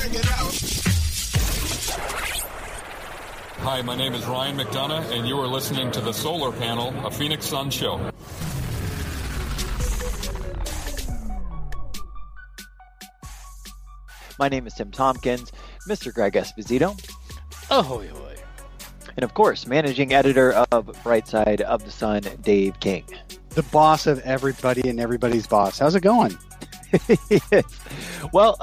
Hi, my name is Ryan McDonough, and you are listening to The Solar Panel, a Phoenix Suns show. My name is Tim Tompkins, Mr. Greg Esposito. Ahoy, hoy. And of course, managing editor of Brightside of the Sun, Dave King. The boss of everybody and everybody's boss. How's it going? Well,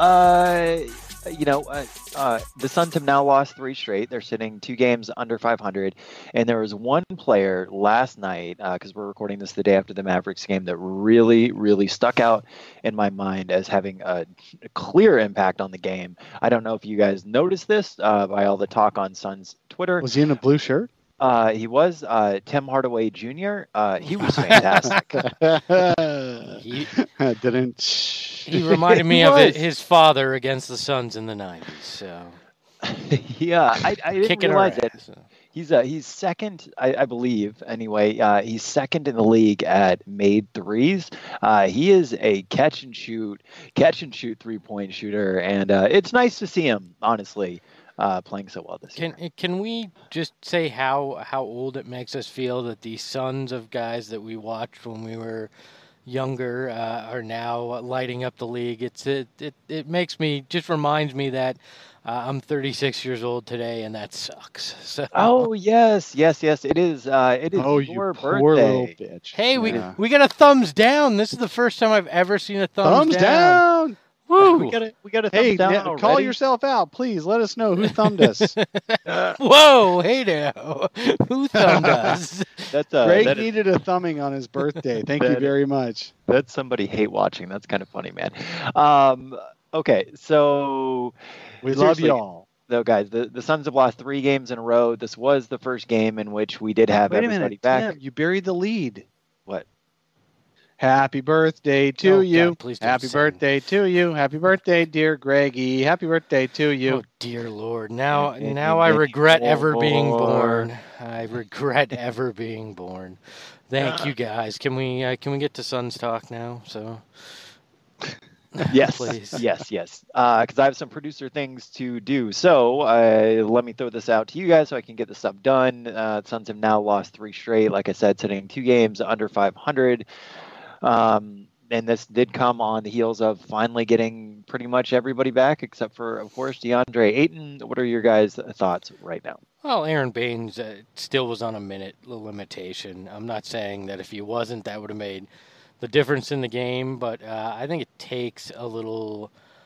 the Suns have now lost 3 straight. They're sitting 2 games under 500. And there was one player last night, because we're recording this the day after the Mavericks game, that really, really stuck out in my mind as having a clear impact on the game. I don't know if you guys noticed this by all the talk on Suns Twitter. Was he in a blue shirt? He was Tim Hardaway Jr. He was fantastic. He reminded me of his father against the Suns in the 90s. So yeah, I didn't realize it. So. He's second, I believe. Anyway, he's second in the league at made threes. He is a catch and shoot 3-point shooter, and it's nice to see him, honestly. Playing so well this year. Can we just say how old it makes us feel that these sons of guys that we watched when we were younger are now lighting up the league? It makes me, just reminds me that I'm 36 years old today, and that sucks. So. Oh yes, it is. It is your birthday. Poor little bitch. Hey, we got a thumbs down. This is the first time I've ever seen a thumbs down. Woo! We got a thumbs down already. Call yourself out, please. Let us know who thumbed us. Whoa! Hey now, who thumbed us? Greg needed a thumbing on his birthday. Thank you very much. That's somebody hate watching. That's kind of funny, man. Okay, so we love y'all. Though, guys, the Suns have lost 3 games in a row. This was the first game in which we did have everybody back. Tim, you buried the lead. What? Happy birthday to you. God, Happy birthday to you. Happy birthday, dear Greggy. Happy birthday to you. Oh, dear Lord. Now I regret ever being born. I regret ever being born. Thank you, guys. Can we get to Suns talk now? So. Yes, please. Yes. Because I have some producer things to do. So let me throw this out to you guys so I can get this stuff done. Suns have now lost 3 straight. Like I said, sitting 2 games under 500. And this did come on the heels of finally getting pretty much everybody back, except for, of course, DeAndre Ayton. What are your guys' thoughts right now? Well, Aaron Baines still was on a minute limitation. I'm not saying that if he wasn't, that would have made the difference in the game, but I think it takes a little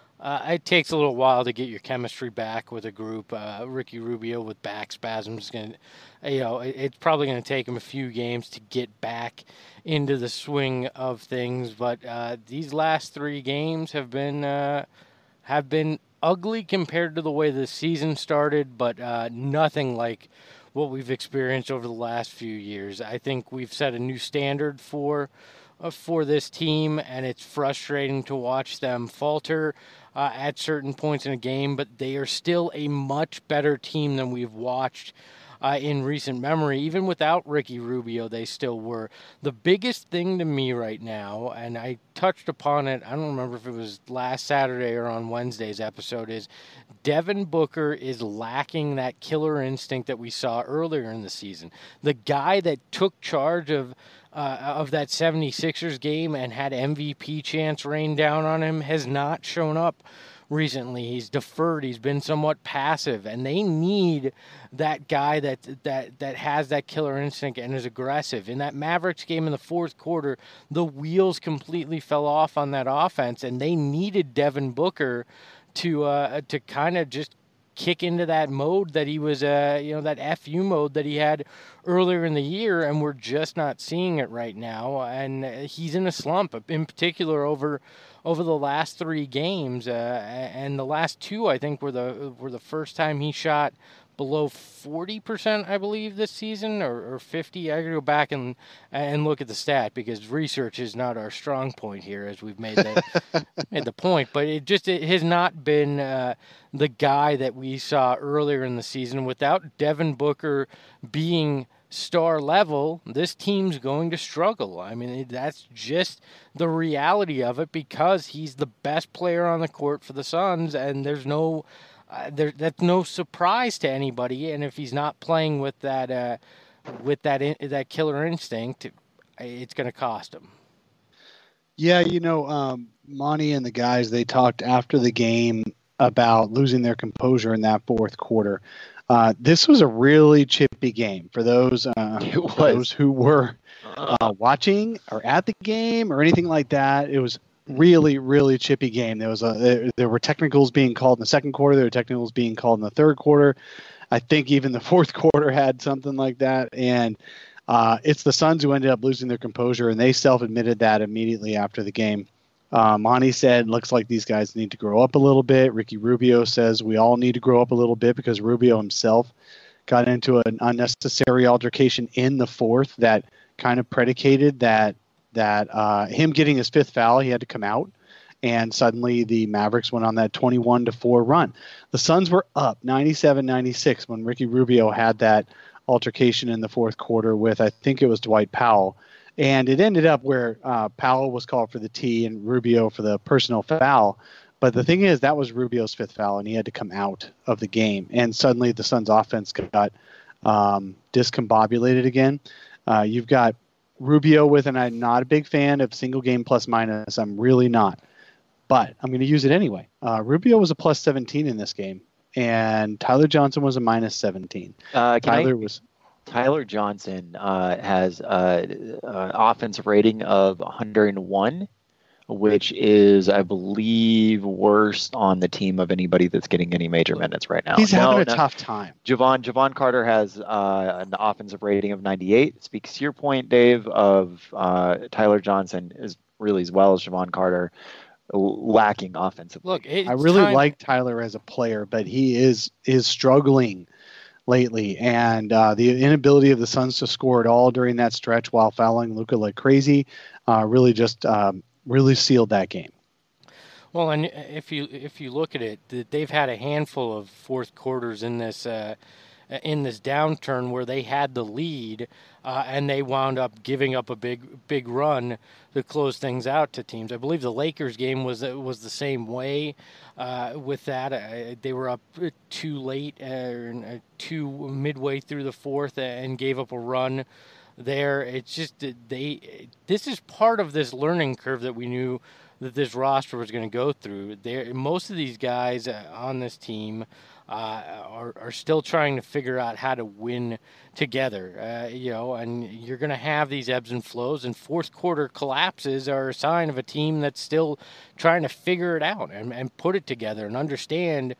while to get your chemistry back with a group. Ricky Rubio with back spasms, it's probably going to take him a few games to get back into the swing of things. But these last 3 games have been ugly compared to the way the season started, but nothing like what we've experienced over the last few years. I think we've set a new standard for this team, and it's frustrating to watch them falter at certain points in a game, but they are still a much better team than we've watched in recent memory. Even without Ricky Rubio, they still were. The biggest thing to me right now, and I touched upon it, I don't remember if it was last Saturday or on Wednesday's episode, is Devin Booker is lacking that killer instinct that we saw earlier in the season. The guy that took charge of that 76ers game and had MVP chance rain down on him has not shown up recently. He's deferred. He's been somewhat passive, and they need that guy that has that killer instinct and is aggressive. In that Mavericks game in the 4th quarter, the wheels completely fell off on that offense, and they needed Devin Booker to kind of just kick into that mode that he was, that FU mode that he had earlier in the year, and we're just not seeing it right now. And he's in a slump, in particular over the last 3 games, and the last 2 I think were the first time he shot below 40%, I believe, this season, or 50. I gotta go back and look at the stat because research is not our strong point here, as we've made the point. But it has not been the guy that we saw earlier in the season. Without Devin Booker being star level, this team's going to struggle. I mean, that's just the reality of it because he's the best player on the court for the Suns, and there's no that's no surprise to anybody. And if he's not playing with that killer instinct, it's going to cost him. Yeah, Monty and the guys, they talked after the game about losing their composure in that fourth quarter. This was a really chippy game for those who were watching or at the game or anything like that. It was really, really chippy game. There were technicals being called in the second quarter. There were technicals being called in the third quarter. I think even the fourth quarter had something like that. And it's the Suns who ended up losing their composure, and they self-admitted that immediately after the game. Monty said, looks like these guys need to grow up a little bit. Ricky Rubio says we all need to grow up a little bit because Rubio himself got into an unnecessary altercation in the fourth that kind of predicated that him getting his fifth foul, he had to come out. And suddenly the Mavericks went on that 21-4 run. The Suns were up 97-96 when Ricky Rubio had that altercation in the fourth quarter with, I think it was Dwight Powell. And it ended up where Powell was called for the tee and Rubio for the personal foul. But the thing is, that was Rubio's fifth foul, and he had to come out of the game. And suddenly the Suns' offense got discombobulated again. You've got Rubio with, and I'm not a big fan of single game plus minus. I'm really not. But I'm going to use it anyway. Rubio was a plus 17 in this game, and Tyler Johnson was a minus 17. Tyler Johnson has an offensive rating of 101, which is, I believe, worst on the team of anybody that's getting any major minutes right now. He's having a tough time. Javon Carter has an offensive rating of 98. Speaks to your point, Dave, of Tyler Johnson is really, as well as Javon Carter, lacking offensively. Look, I really like Tyler as a player, but he is struggling lately, and the inability of the Suns to score at all during that stretch while fouling Luka like crazy really just really sealed that game. Well, and if you look at it, they've had a handful of fourth quarters in this downturn where they had the lead and they wound up giving up a big run to close things out to teams. I believe the Lakers game was the same way with that. They were up too late, too midway through the fourth, and gave up a run there. It's just this is part of this learning curve that we knew that this roster was going to go through. Most of these guys on this team are still trying to figure out how to win together, and you're going to have these ebbs and flows, and fourth quarter collapses are a sign of a team that's still trying to figure it out and put it together and understand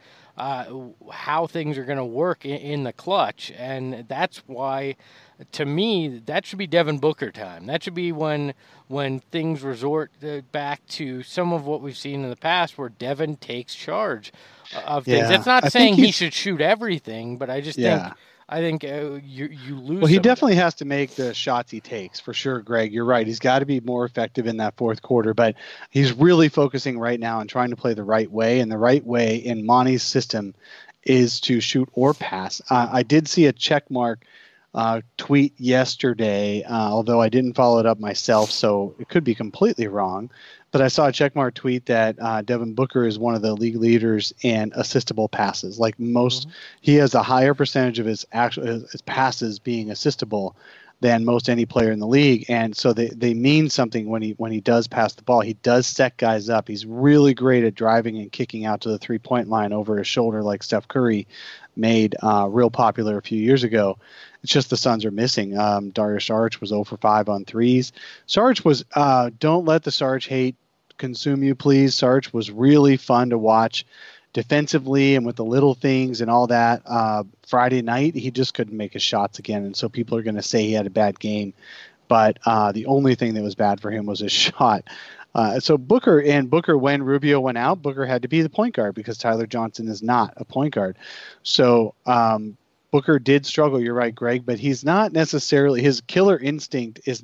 how things are going to work in the clutch. And that's why, to me, that should be Devin Booker time. That should be when things resort back to some of what we've seen in the past where Devin takes charge of things. That's not saying he should shoot everything, but I just think you lose. Well, he definitely has to make the shots he takes, for sure, Greg. You're right. He's got to be more effective in that fourth quarter, but he's really focusing right now on trying to play the right way, and the right way in Monty's system is to shoot or pass. I did see a check mark tweet yesterday, although I didn't follow it up myself, so it could be completely wrong. But I saw a checkmark tweet that Devin Booker is one of the league leaders in assistable passes. Like most, he has a higher percentage of his passes being assistable than most any player in the league, and so they mean something when he does pass the ball. He does set guys up. He's really great at driving and kicking out to the 3-point line over his shoulder, like Steph Curry made real popular a few years ago. It's just the Suns are missing. Dario Saric was 0 for 5 on threes. Saric was don't let the Saric hate consume you, please. Saric was really fun to watch defensively and with the little things and all that. Friday night, he just couldn't make his shots again, and so people are going to say he had a bad game. But the only thing that was bad for him was his shot. So Booker, when Rubio went out, Booker had to be the point guard because Tyler Johnson is not a point guard. So Booker did struggle, you're right, Greg, but he's not necessarily, his killer instinct is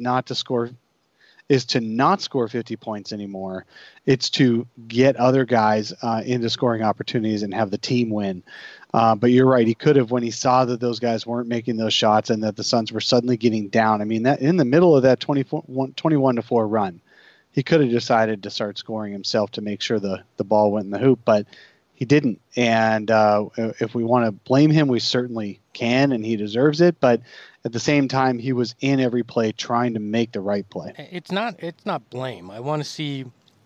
to not score 50 points anymore. It's to get other guys into scoring opportunities and have the team win. But you're right. He could have, when he saw that those guys weren't making those shots and that the Suns were suddenly getting down. I mean, that in the middle of that 21-4 run, he could have decided to start scoring himself to make sure the ball went in the hoop, but he didn't. And if we want to blame him, we certainly can, and he deserves it. But at the same time, he was in every play trying to make the right play. It's not blame. I want to see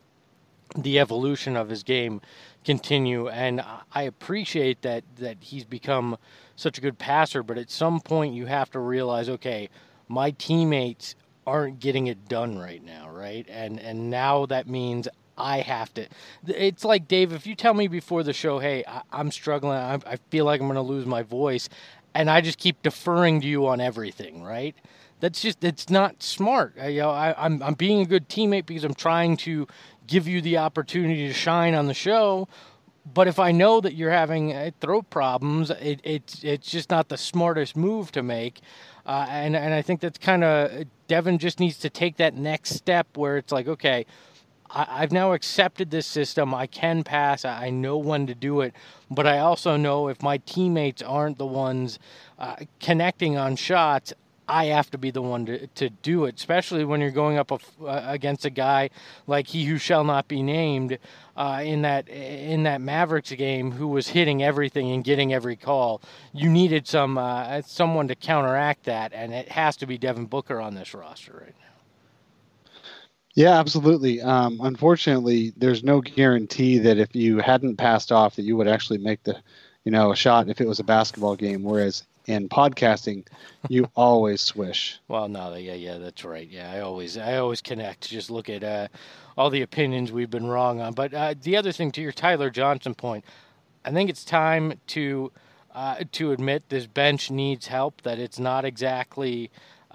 the evolution of his game continue, and I appreciate that he's become such a good passer, but at some point you have to realize, okay, my teammates aren't getting it done right now, right? And now that means I have to. It's like, Dave, if you tell me before the show, hey, I'm struggling, I feel like I'm going to lose my voice, and I just keep deferring to you on everything, right? It's not smart. I'm being a good teammate because I'm trying to give you the opportunity to shine on the show. But if I know that you're having throat problems, it's just not the smartest move to make. And I think that's kind of, Devin just needs to take that next step where it's like, okay, I've now accepted this system. I can pass. I know when to do it. But I also know if my teammates aren't the ones connecting on shots, I have to be the one to do it, especially when you're going up against a guy like he who shall not be named in that Mavericks game, who was hitting everything and getting every call. You needed someone to counteract that, and it has to be Devin Booker on this roster right now. Yeah, absolutely. Unfortunately, there's no guarantee that if you hadn't passed off that you would actually make a shot if it was a basketball game, whereas in podcasting, you always swish. Well, no, yeah, that's right. Yeah, I always connect. Just look at all the opinions we've been wrong on. But the other thing, to your Tyler Johnson point, I think it's time to admit this bench needs help. That it's not exactly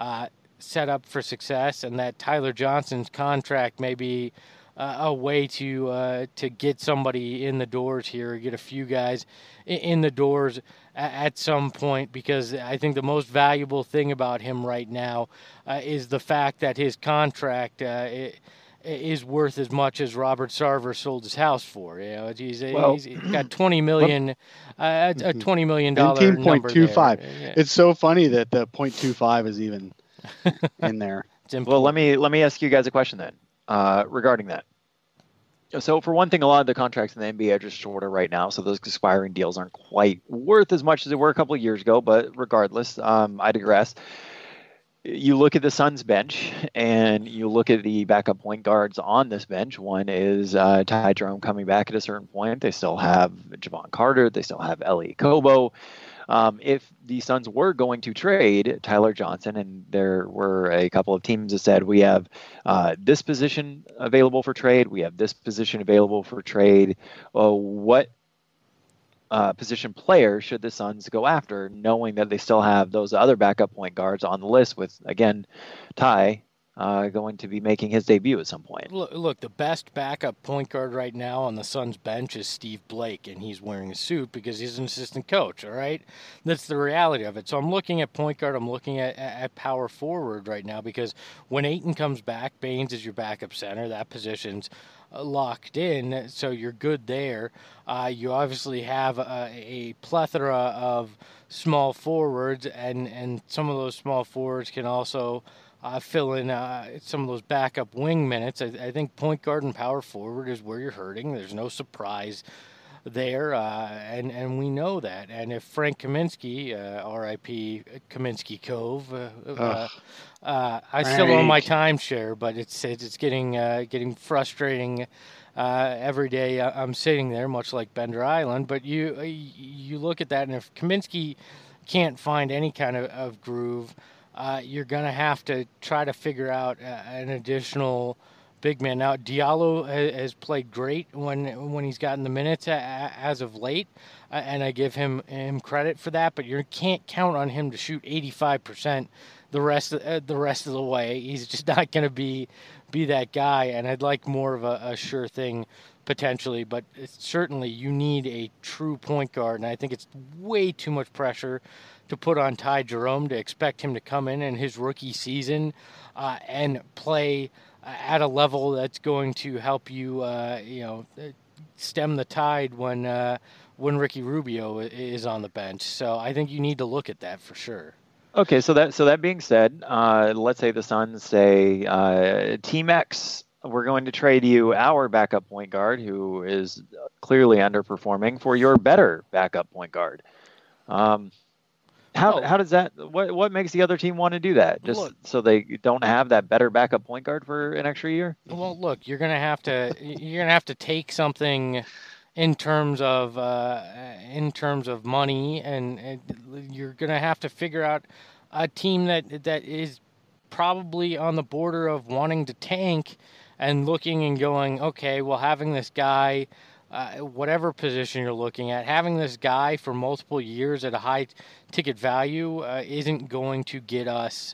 set up for success, and that Tyler Johnson's contract may be a way to get somebody in the doors here, get a few guys in the doors at some point, because I think the most valuable thing about him right now is the fact that his contract is worth as much as Robert Sarver sold his house for. He's got $20 million, a $20 million number 19.25. Yeah. It's so funny that the 0.25 is even in there. Well, let me ask you guys a question then regarding that. So for one thing, a lot of the contracts in the NBA are just shorter right now, so those expiring deals aren't quite worth as much as they were a couple of years ago. But regardless, I digress. You look at the Suns bench, and you look at the backup point guards on this bench. One is Ty Jerome coming back at a certain point. They still have Javon Carter. They still have Ellie Kobo. If the Suns were going to trade Tyler Johnson, and there were a couple of teams that said, we have this position available for trade, we have this position available for trade, what position player should the Suns go after, knowing that they still have those other backup point guards on the list with, again, Ty going to be making his debut at some point? Look, the best backup point guard right now on the Suns bench is Steve Blake, and he's wearing a suit because he's an assistant coach, all right? That's the reality of it. So I'm looking at point guard, I'm looking at power forward right now, because when Ayton comes back, Baines is your backup center. That position's locked in, so you're good there. You obviously have a plethora of small forwards, and some of those small forwards can also fill in some of those backup wing minutes. I think point guard and power forward is where you're hurting. There's no surprise there, and we know that. And if Frank Kaminsky, R.I.P. Kaminsky Cove, I still own my timeshare, but it's getting frustrating every day. I'm sitting there, much like Bender Island. But you look at that, and if Kaminsky can't find any kind of groove, you're going to have to try to figure out an additional big man. Now, Diallo has played great when he's gotten the minutes as of late, and I give him credit for that, but you can't count on him to shoot 85% the rest of the way. He's just not going to be that guy, and I'd like more of a sure thing potentially, but certainly you need a true point guard, and I think it's way too much pressure to put on Ty Jerome to expect him to come in his rookie season and play at a level that's going to help you, stem the tide when Ricky Rubio is on the bench. So I think you need to look at that for sure. Okay, so that being said, let's say the Suns say, Team X, we're going to trade you our backup point guard, who is clearly underperforming, for your better backup point guard. How does that? What makes the other team want to do that? Just so they don't have that better backup point guard for an extra year? Well, look, you're gonna have to take something in terms of money, and you're gonna have to figure out a team that is probably on the border of wanting to tank and looking and going, okay, well, having this guy, whatever position you're looking at, having this guy for multiple years at a high ticket value isn't going to get us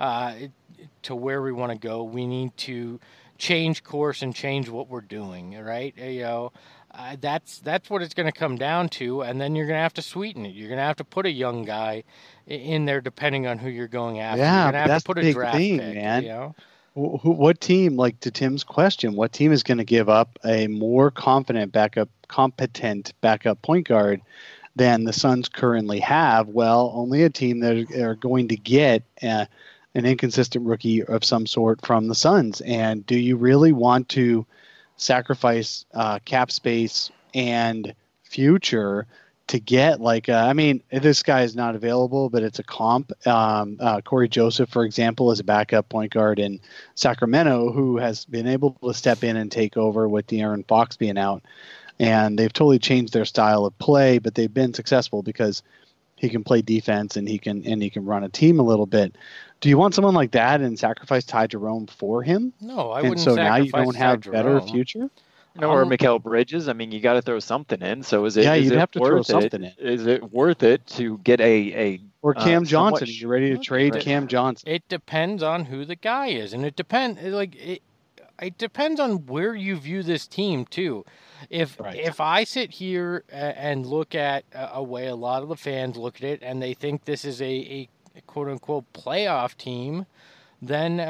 to where we want to go. We need to change course and change what we're doing, right? That's what it's going to come down to, and then you're going to have to sweeten it. You're going to have to put a young guy in there, depending on who you're going after. Yeah, you're going to have that's to put the a big draft thing, pick, man. What team, like to Tim's question, what team is going to give up a more competent backup point guard than the Suns currently have? Well, only a team that are going to get an inconsistent rookie of some sort from the Suns. And do you really want to sacrifice cap space and future to get this guy is not available, but it's a comp. Corey Joseph, for example, is a backup point guard in Sacramento who has been able to step in and take over with De'Aaron Fox being out. And they've totally changed their style of play, but they've been successful because he can play defense and he can run a team a little bit. Do you want someone like that and sacrifice Ty Jerome for him? No, I wouldn't. And so now you don't have Ty better Jerome. future? No, or Mikal Bridges. I mean, you got to throw something in. So is it? Yeah, is you'd it have to throw worth something in. Is it worth it to get a or Cam Johnson? somewhat- Are you ready to trade Cam Johnson? It depends on who the guy is, and it depends. It depends on where you view this team too. If I sit here and look at a way a lot of the fans look at it, and they think this is a quote unquote playoff team, then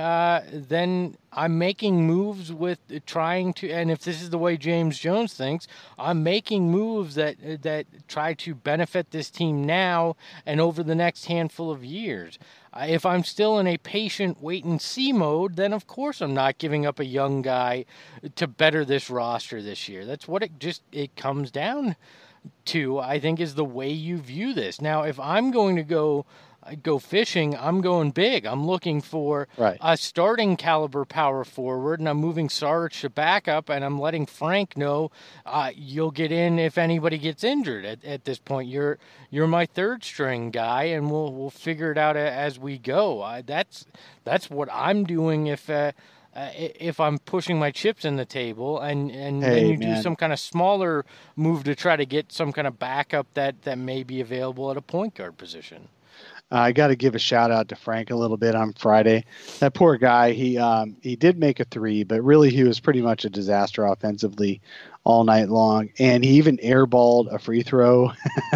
I'm making moves with trying to. And if this is the way James Jones thinks, I'm making moves that try to benefit this team now and over the next handful of years. If I'm still in a patient wait-and-see mode, then of course I'm not giving up a young guy to better this roster this year. That's what it comes down to, I think, is the way you view this. Now, if I'm going to go fishing, I'm going big. I'm looking for a starting caliber power forward, and I'm moving Sarge to backup, and I'm letting Frank know you'll get in if anybody gets injured. At this point, you're my third string guy, and we'll figure it out as we go. That's what I'm doing if I'm pushing my chips in the table, and then you do some kind of smaller move to try to get some kind of backup that may be available at a point guard position. I got to give a shout out to Frank a little bit on Friday. That poor guy, he did make a three, but really he was pretty much a disaster offensively all night long. And he even airballed a free throw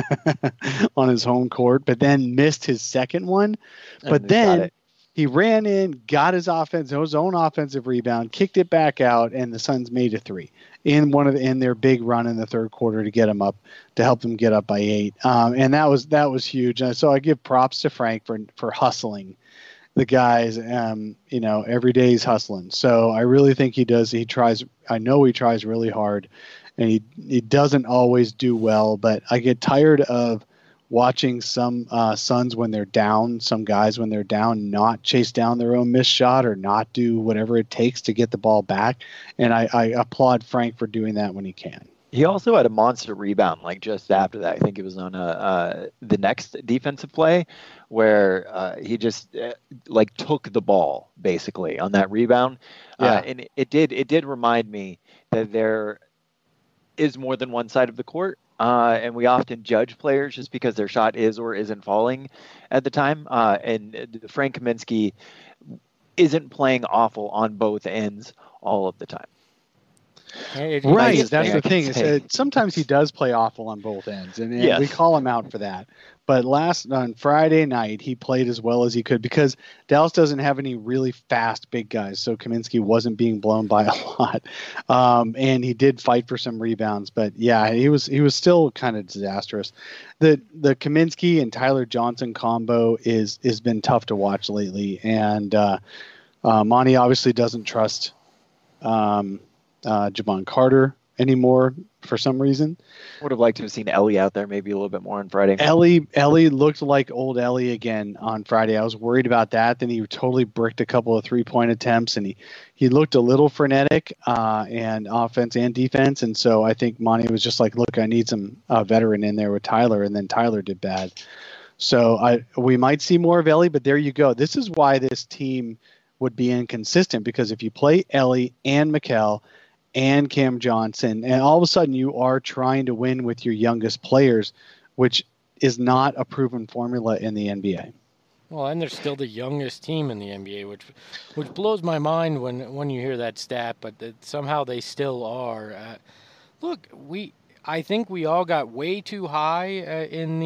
on his home court, but then missed his second one. But then he ran in, got his own offensive rebound, kicked it back out, and the Suns made a three in their big run in the third quarter to help them get up by 8. And that was huge. And so I give props to Frank for hustling the guys. Every day he's hustling. So I really think he does. I know he tries really hard, and he doesn't always do well, but I get tired of watching some Suns when they're down, some guys when they're down, not chase down their own missed shot or not do whatever it takes to get the ball back. And I applaud Frank for doing that when he can. He also had a monster rebound, like just after that. I think it was on the next defensive play where he just took the ball basically on that rebound. Yeah. And it did remind me that there is more than one side of the court. And we often judge players just because their shot is or isn't falling at the time. And Frank Kaminsky isn't playing awful on both ends all of the time. Right, that's the thing. Is sometimes he does play awful on both ends, and Yes. we call him out for that. But on Friday night, he played as well as he could because Dallas doesn't have any really fast big guys, so Kaminsky wasn't being blown by a lot, and he did fight for some rebounds. But yeah, he was still kind of disastrous. The Kaminsky and Tyler Johnson combo has been tough to watch lately, and Monty obviously doesn't trust Jabon Carter anymore for some reason. Would have liked to have seen Ellie out there maybe a little bit more on Friday. Ellie looked like old Ellie again on Friday. I was worried about that. Then he totally bricked a couple of 3-point attempts, and he looked a little frenetic and offense and defense. And so I think Monty was just like, look, I need some veteran in there with Tyler, and then Tyler did bad. So we might see more of Ellie, but there you go. This is why this team would be inconsistent, because if you play Ellie and Mikal and Cam Johnson, and all of a sudden you are trying to win with your youngest players, which is not a proven formula in the NBA. Well, and they're still the youngest team in the NBA, which blows my mind when you hear that stat, but somehow they still are. Look, I think we all got way too high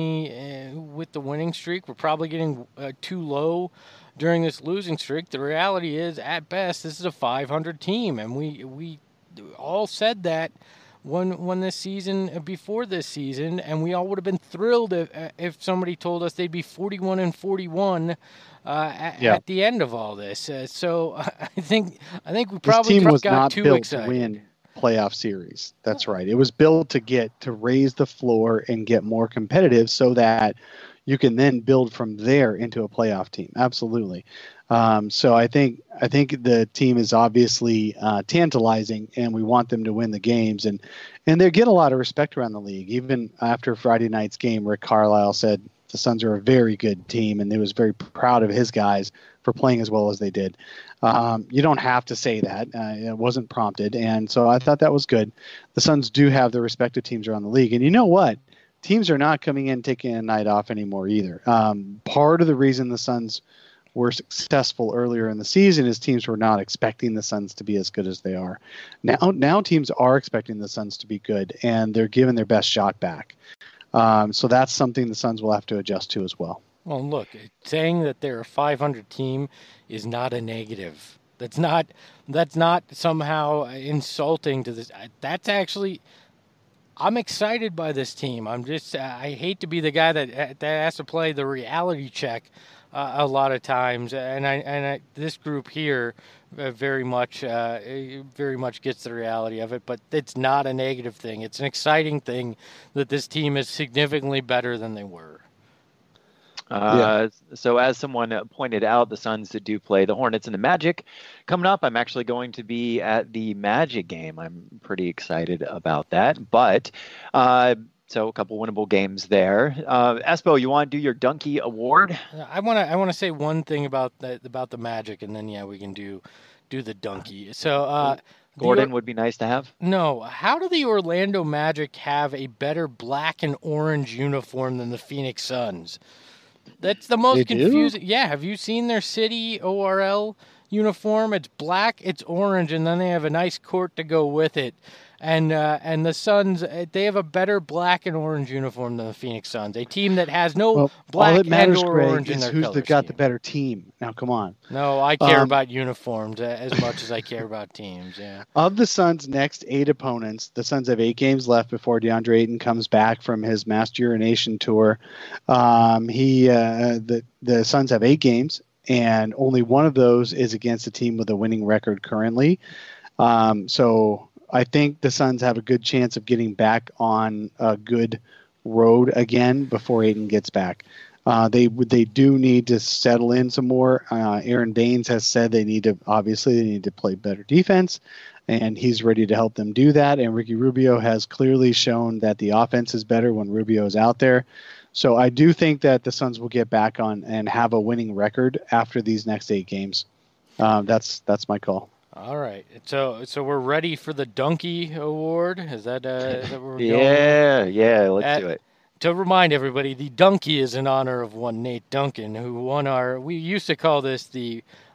with the winning streak. We're probably getting too low during this losing streak. The reality is, at best, this is a 500 team, and we all said that when this season, before this season, and we all would have been thrilled if somebody told us they'd be 41-41 at the end of all this. So I think we probably got too excited. To win playoff series. That's right. It was built to raise the floor and get more competitive, so that you can then build from there into a playoff team. Absolutely. So I think the team is obviously tantalizing, and we want them to win the games, and they get a lot of respect around the league. Even after Friday night's game, Rick Carlisle said the Suns are a very good team, and he was very proud of his guys for playing as well as they did. You don't have to say that. It wasn't prompted, and so I thought that was good. The Suns do have the respect of teams around the league, and you know what? Teams are not coming in taking a night off anymore either. Part of the reason the Suns were successful earlier in the season is teams were not expecting the Suns to be as good as they are. Now teams are expecting the Suns to be good, and they're giving their best shot back. So that's something the Suns will have to adjust to as well. Well, look, saying that they're a 500 team is not a negative. That's not somehow insulting to this. That's actually, I'm excited by this team. I hate to be the guy that has to play the reality check a lot of times, and this group here very much gets the reality of it. But it's not a negative thing. It's an exciting thing that this team is significantly better than they were. So as someone pointed out, the Suns do play the Hornets and the Magic coming up. I'm actually going to be at the Magic game. I'm pretty excited about that. But so a couple winnable games there. Espo, you want to do your Donkey Award? I want to say one thing about the Magic, and then we can do the Donkey. So Gordon would be nice to have. No, how do the Orlando Magic have a better black and orange uniform than the Phoenix Suns? That's the most confusing. Yeah, have you seen their city ORL uniform? It's black, it's orange, and then they have a nice court to go with it. And the Suns, they have a better black and orange uniform than the Phoenix Suns, a team that has no black and orange in their color who's got the better team. Now, come on. No, I care about uniforms as much as I care about teams, yeah. Of the Suns' next 8 opponents, the Suns have 8 games left before DeAndre Ayton comes back from his mass urination tour. The Suns have 8 games, and only one of those is against a team with a winning record currently. So I think the Suns have a good chance of getting back on a good road again before Ayton gets back. They do need to settle in some more. Aaron Baines has said they need to play better defense, and he's ready to help them do that. And Ricky Rubio has clearly shown that the offense is better when Rubio is out there. So I do think that the Suns will get back on and have a winning record after these next 8 games. That's my call. All right, so we're ready for the Donkey Award. Is that where we're going? Yeah, let's do it. To remind everybody, the Donkey is in honor of one Nate Duncan, who won we used to call this the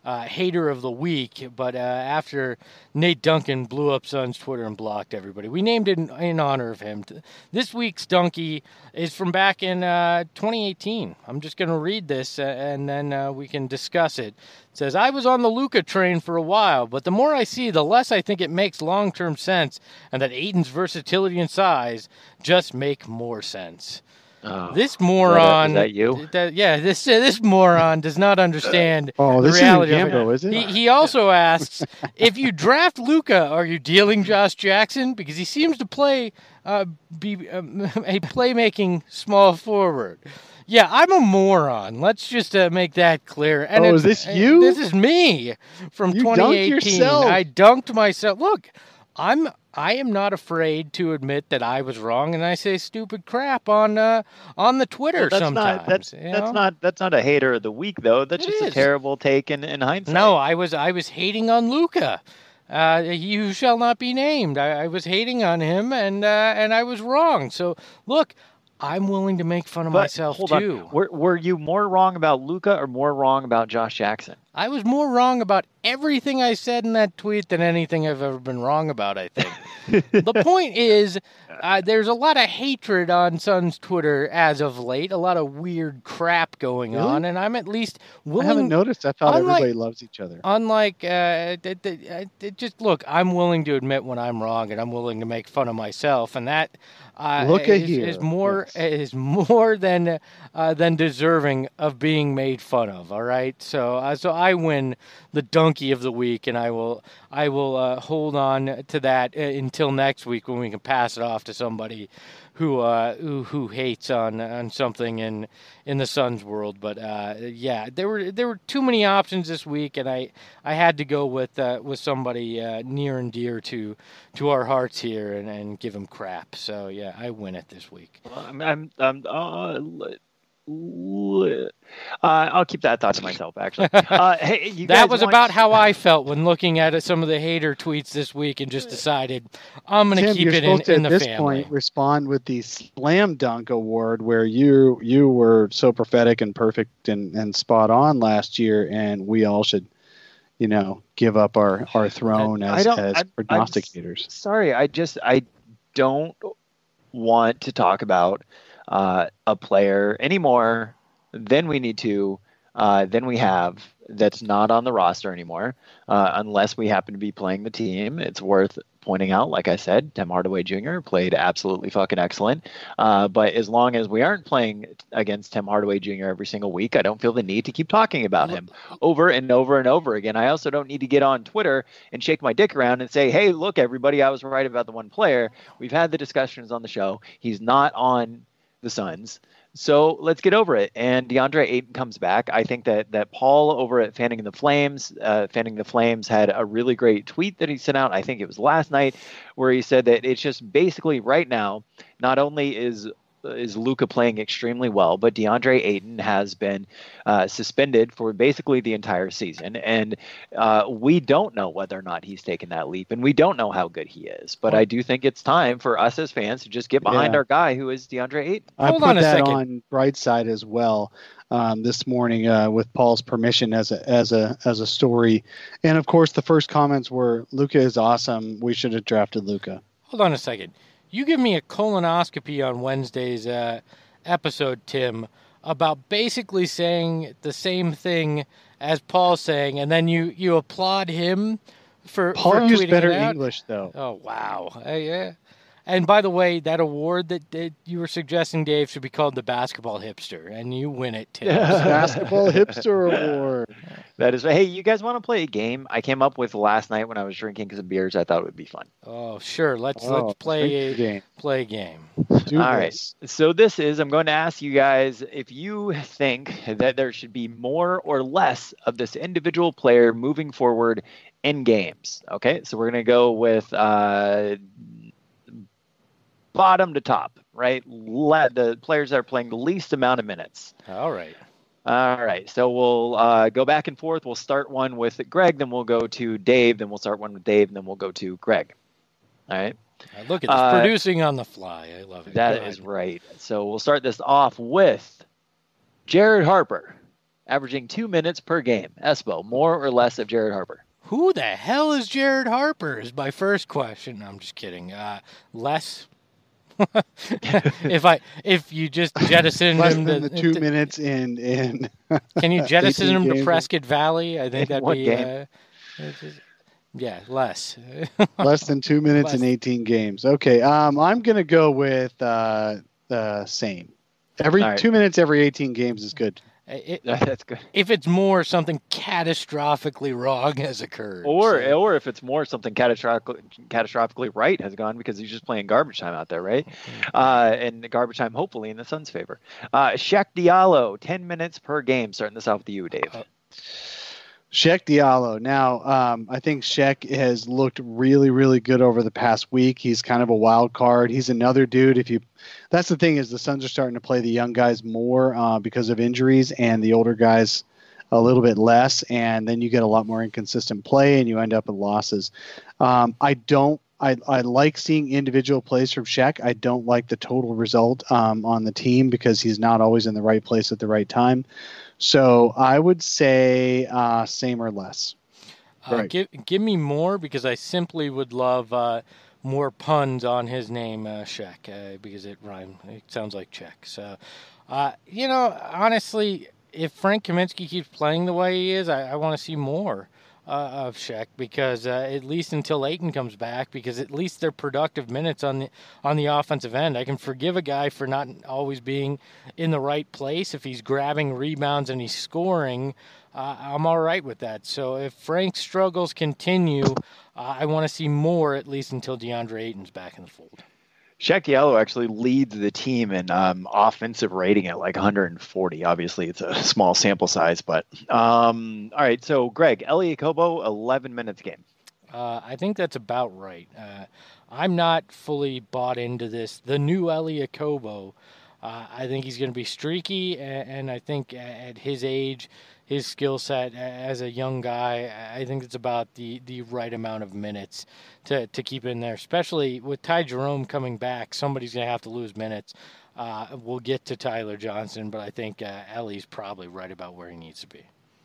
hater of the week, but after Nate Duncan blew up Suns Twitter and blocked everybody, we named it in honor of him. This week's donkey is from back in 2018. I'm just going to read this and then we can discuss it. It says, I was on the Luka train for a while, but the more I see, the less I think it makes long-term sense, and that Ayton's versatility and size just make more sense. Oh, this moron. Is that you? This moron does not understand the reality of it. Is it? He also asks, if you draft Luka, are you dealing Josh Jackson? Because he seems to be a playmaking small forward. Yeah, I'm a moron. Let's just make that clear. And is this you? This is me from you 2018. Dunked yourself. I dunked myself. Look, I am not afraid to admit that I was wrong, and I say stupid crap on the Twitter sometimes. That's not a hater of the week though. That's just a terrible take in hindsight. No, I was hating on Luka. You shall not be named. I was hating on him, and I was wrong. So look, I'm willing to make fun of myself too. Were you more wrong about Luka or more wrong about Josh Jackson? I was more wrong about everything I said in that tweet than anything I've ever been wrong about, I think. The point is, there's a lot of hatred on Suns Twitter as of late, a lot of weird crap going on, and I'm at least willing... I haven't noticed. I thought everybody loves each other. Just look, I'm willing to admit when I'm wrong, and I'm willing to make fun of myself, and that is more than deserving of being made fun of, all right? So I win the donkey of the week, and I will hold on to that until next week when we can pass it off to somebody who hates on something in the Suns world. But there were too many options this week, and I had to go with somebody near and dear to our hearts here and give him crap. So yeah, I win it this week. I'll keep that thought to myself, actually. Hey, that was about how I felt when looking at some of the hater tweets this week and just decided I'm going to keep it in the family. At this point, respond with the Slam Dunk Award, where you were so prophetic and perfect and spot on last year, and we all should, give up our throne as prognosticators. Sorry, I don't want to talk about a player any more than we need to, than we have, that's not on the roster anymore, unless we happen to be playing the team. It's worth pointing out, like I said, Tim Hardaway Jr. played absolutely fucking excellent. But as long as we aren't playing against Tim Hardaway Jr. every single week, I don't feel the need to keep talking about him over and over and over again. I also don't need to get on Twitter and shake my dick around and say, hey, look, everybody, I was right about the one player. We've had the discussions on the show. He's not on the Suns. So let's get over it. And DeAndre Ayton comes back. I think that Paul over at Fanning the Flames had a really great tweet that he sent out. I think it was last night, where he said that it's just basically right now, not only is Luka playing extremely well, but DeAndre Ayton has been suspended for basically the entire season. And we don't know whether or not he's taken that leap, and we don't know how good he is. But I do think it's time for us as fans to just get behind our guy, who is DeAndre Ayton. Hold on a second. On Brightside as well this morning with Paul's permission as a story. And of course, the first comments were, Luka is awesome. We should have drafted Luka. Hold on a second. You give me a colonoscopy on Wednesday's episode, Tim, about basically saying the same thing as Paul's saying, and then you applaud him for Paul used better it out. English, though. Oh, wow. Yeah. And by the way, that award that you were suggesting, Dave, should be called the Basketball Hipster, and you win it, Tim. Basketball Hipster Award. That is. Hey, you guys want to play a game I came up with last night when I was drinking some beers? I thought it would be fun. Oh, sure. Let's play a game. Play a game. All right. So I'm going to ask you guys if you think that there should be more or less of this individual player moving forward in games. Okay. So we're going to go with bottom to top, right? The players that are playing the least amount of minutes. All right. So we'll go back and forth. We'll start one with Greg, then we'll go to Dave, then we'll start one with Dave, and then we'll go to Greg. All right. Look at this, producing on the fly. I love it. That is right. So we'll start this off with Jared Harper averaging 2 minutes per game. Espo, more or less of Jared Harper? Who the hell is Jared Harper is my first question. No, I'm just kidding. Less. if you just jettison less him than the 2 minutes in can you jettison him to games. Prescott Valley? I think that'd be less. Less than 2 minutes in 18 games. Okay, I'm gonna go with same. Every 2 minutes every 18 games is good. That's good. If it's more, something catastrophically wrong has occurred. Or if it's more, something catastrophically right has gone because he's just playing garbage time out there, right? And garbage time, hopefully, in the Suns' favor. Cheick Diallo, 10 minutes per game. Starting this off with you, Dave. Cheick Diallo. Now, I think Cheick has looked really, really good over the past week. He's kind of a wild card. He's another dude. That's the thing is the Suns are starting to play the young guys more because of injuries and the older guys a little bit less. And then you get a lot more inconsistent play and you end up with losses. I like seeing individual plays from Cheick. I don't like the total result on the team because he's not always in the right place at the right time. So I would say same or less. Right. Give me more because I simply would love more puns on his name, Cheick, because it rhymes. It sounds like Czech. So, honestly, if Frank Kaminsky keeps playing the way he is, I want to see more of Cheick because at least until Ayton comes back, because at least they're productive minutes on the offensive end. I can forgive a guy for not always being in the right place. If he's grabbing rebounds and he's scoring, I'm all right with that. So if Frank's struggles continue, I want to see more at least until DeAndre Ayton's back in the fold. Cheick Diallo actually leads the team in offensive rating at like 140. Obviously, it's a small sample size, but all right. So, Greg, Elie Okobo, 11 minutes game. I think that's about right. I'm not fully bought into this. The new Elie Okobo, I think he's going to be streaky, and I think at his age, his skill set as a young guy, I think it's about the right amount of minutes to keep in there, especially with Ty Jerome coming back. Somebody's going to have to lose minutes. We'll get to Tyler Johnson, but I think Ellie's probably right about where he needs to be.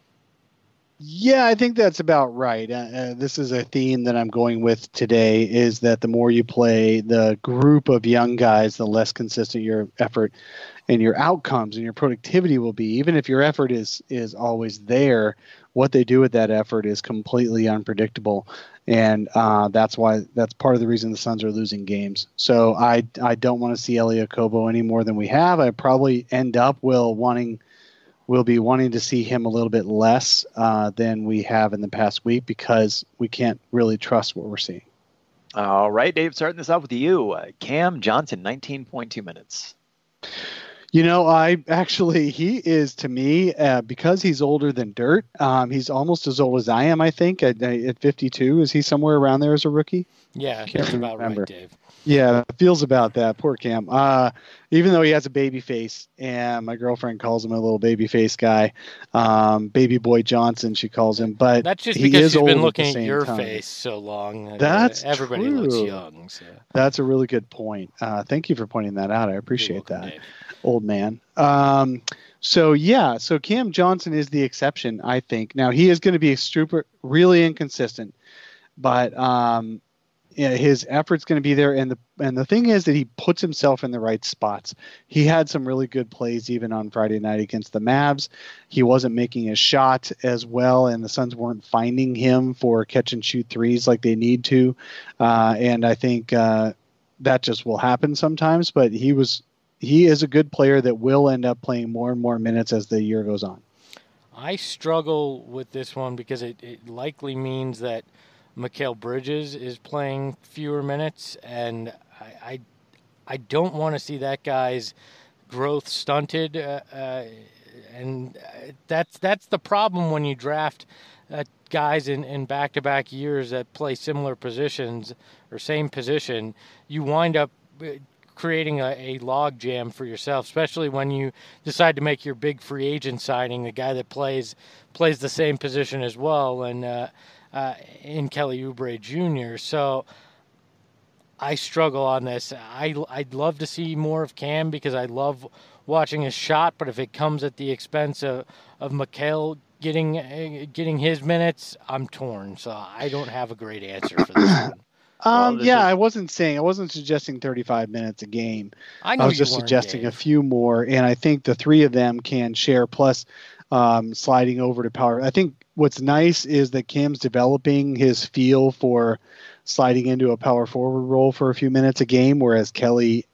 Yeah, I think that's about right. This is a theme that I'm going with today, is that the more you play the group of young guys, the less consistent your effort and your outcomes and your productivity will be. Even if your effort is always there, what they do with that effort is completely unpredictable. And that's part of the reason the Suns are losing games. So I don't want to see Elie Okobo any more than we have. I probably we'll be wanting to see him a little bit less than we have in the past week because we can't really trust what we're seeing. All right, Dave, starting this off with you. Cam Johnson, 19.2 minutes. He is, to me, because he's older than dirt, he's almost as old as I am, I think, at 52. Is he somewhere around there as a rookie? Yeah, that's about right, Dave. Yeah, it feels about that. Poor Cam. Even though he has a baby face, and my girlfriend calls him a little baby face guy, baby boy Johnson, she calls him. But that's just because she's been looking at your time. Face so long. That's everybody true. looks young. So. That's a really good point. Thank you for pointing that out. I appreciate that, Dave. Old man. So Cam Johnson is the exception, I think. Now he is going to be really inconsistent, but his effort's going to be there, and the thing is that he puts himself in the right spots. He had some really good plays even on Friday night against the Mavs. He wasn't making his shot as well, and the Suns weren't finding him for catch and shoot threes like they need to. And I think that just will happen sometimes. But he is a good player that will end up playing more and more minutes as the year goes on. I struggle with this one because it likely means that Mikal Bridges is playing fewer minutes, and I don't want to see that guy's growth stunted, and that's the problem when you draft guys in back-to-back years that play similar positions or same position. You wind up creating a log jam for yourself, especially when you decide to make your big free agent signing, the guy that plays the same position as well, and in Kelly Oubre Jr. So I struggle on this. I'd love to see more of Cam because I love watching his shot, but if it comes at the expense of Mikal getting his minutes, I'm torn. So I don't have a great answer for this one. I wasn't suggesting 35 minutes a game. I know was you just weren't, suggesting Dave. a few more, and I think the three of them can share. Plus, sliding over to power. I think what's nice is that Cam's developing his feel for sliding into a power forward role for a few minutes a game, whereas Kelly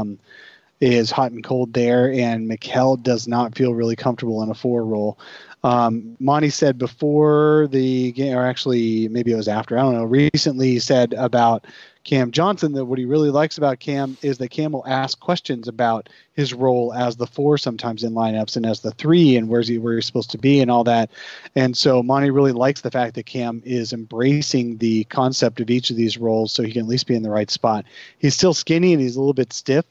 is hot and cold there, and Mikal does not feel really comfortable in a 4 role. Monty said before the game, or actually maybe it was after, I don't know, recently said about Cam Johnson that what he really likes about Cam is that Cam will ask questions about his role as the 4 sometimes in lineups and as the 3 and where he's supposed to be and all that. And so Monty really likes the fact that Cam is embracing the concept of each of these roles so he can at least be in the right spot. He's still skinny and he's a little bit stiff.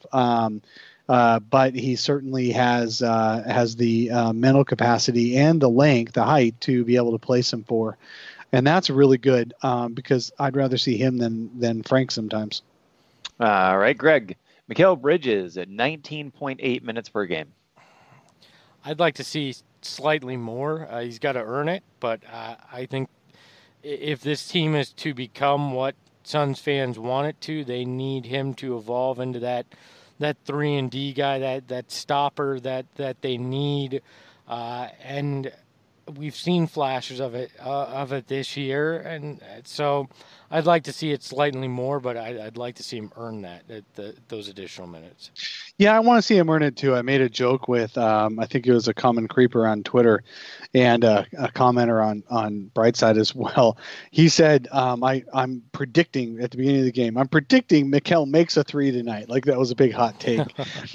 But he certainly has the mental capacity and the length, the height to be able to play some 4. And that's really good because I'd rather see him than Frank sometimes. All right, Greg. Mikal Bridges at 19.8 minutes per game. I'd like to see slightly more. He's got to earn it, but I think if this team is to become what Suns fans want it to, they need him to evolve into that 3-and-D guy, that stopper that they need, and we've seen flashes of it this year, and so I'd like to see it slightly more, but I'd like to see him earn those additional minutes. Yeah, I want to see him earn it too. I made a joke with I think it was a common creeper on Twitter and a commenter on Brightside as well. He said, I'm predicting at the beginning of the game, I'm predicting Mikal makes a 3 tonight. Like that was a big hot take.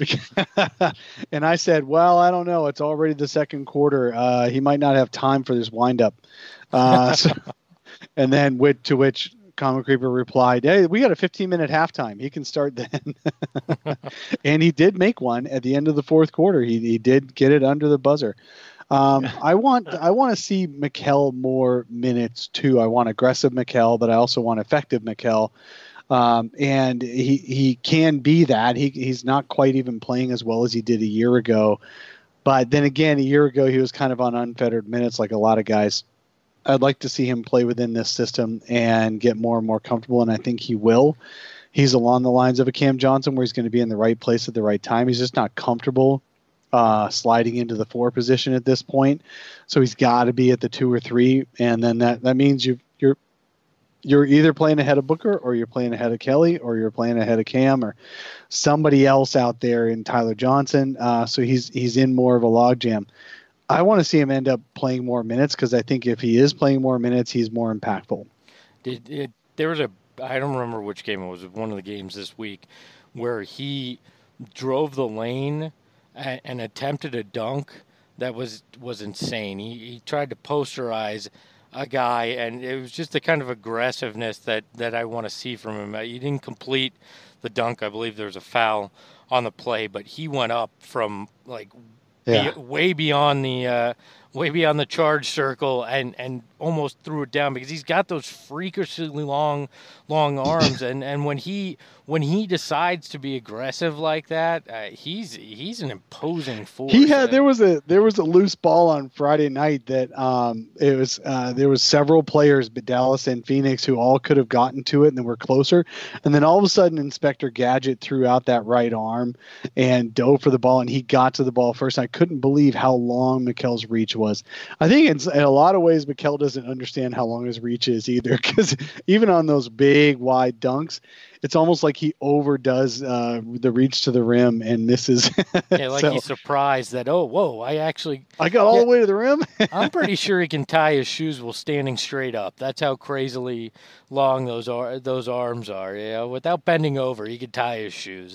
And I said, well, I don't know. It's already the second quarter. He might not have time for this windup. And then to which Common Creeper replied, hey, we got a 15-minute halftime. He can start then. And he did make one at the end of the fourth quarter. He did get it under the buzzer. I want to see Mikal more minutes too. I want aggressive Mikal, but I also want effective Mikal. And he can be that. He's not quite even playing as well as he did a year ago. But then again, a year ago, he was kind of on unfettered minutes like a lot of guys. I'd like to see him play within this system and get more and more comfortable, and I think he will. He's along the lines of a Cam Johnson where he's going to be in the right place at the right time. He's just not comfortable sliding into the 4 position at this point. So he's got to be at the 2 or 3, and then that means you're either playing ahead of Booker or you're playing ahead of Kelly or you're playing ahead of Cam or somebody else out there in Tyler Johnson. So he's in more of a logjam. I want to see him end up playing more minutes because I think if he is playing more minutes, he's more impactful. There was I don't remember which game it was, one of the games this week, where he drove the lane and attempted a dunk that was insane. He tried to posterize a guy, and it was just the kind of aggressiveness that I want to see from him. He didn't complete the dunk. I believe there was a foul on the play, but he went up from like way beyond the charge circle and almost threw it down because he's got those freakishly long arms and when he decides to be aggressive like that, he's an imposing force. There was a loose ball on Friday night that there was several players, but Dallas and Phoenix, who all could have gotten to it and then were closer, and then all of a sudden Inspector Gadget threw out that right arm and dove for the ball, and he got to the ball first. I couldn't believe how long Mikal's reach was. I think in a lot of ways Mikal doesn't understand how long his reach is either, because even on those big wide dunks, it's almost like he overdoes the reach to the rim and misses. He's surprised that, I got all the way to the rim. I'm pretty sure he can tie his shoes while standing straight up. That's how crazily long those arms are. Without bending over, he could tie his shoes.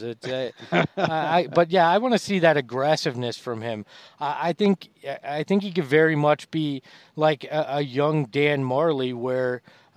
I want to see that aggressiveness from him. I think he could very much be like a young Dan Marley, where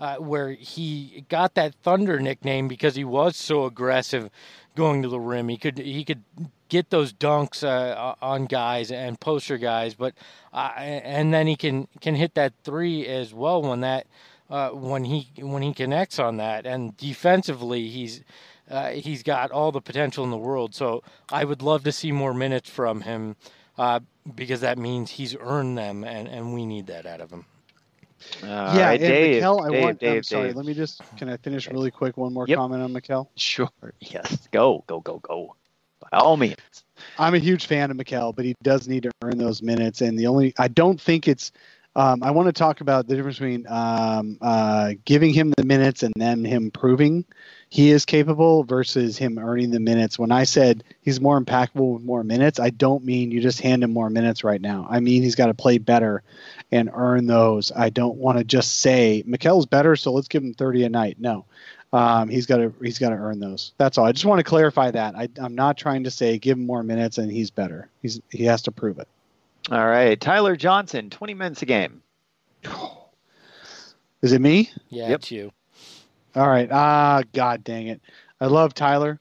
he got that Thunder nickname because he was so aggressive going to the rim. He could get those dunks on guys and poster guys, but and then he can hit that 3 as well when when he connects on that. And defensively, he's got all the potential in the world. So I would love to see more minutes from him because that means he's earned them, and we need that out of him. Yeah, right, and Dave, Mikel, Dave, I'm sorry. Dave. Let me can I finish really quick? One more comment on Mikel? Sure. Yes. Go. By all means. I'm a huge fan of Mikel, but he does need to earn those minutes. And I don't think it's. I want to talk about the difference between giving him the minutes and then him proving he is capable versus him earning the minutes. When I said he's more impactful with more minutes, I don't mean you just hand him more minutes right now. I mean he's got to play better and earn those. I don't want to just say Mikel's better, so let's give him 30 a night. No, he's got to earn those. That's all. I just want to clarify that. I'm not trying to say give him more minutes and he's better. He has to prove it. All right, Tyler Johnson, 20 minutes a game. Is it me? Yeah, It's you. All right. God dang it. I love Tyler.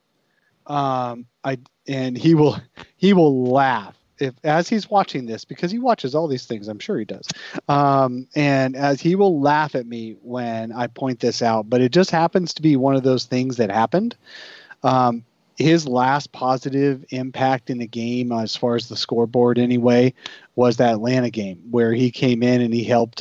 And he will laugh as he's watching this because he watches all these things. I'm sure he does. And as he will laugh at me when I point this out, but it just happens to be one of those things that happened. His last positive impact in the game, as far as the scoreboard anyway, was that Atlanta game where he came in and he helped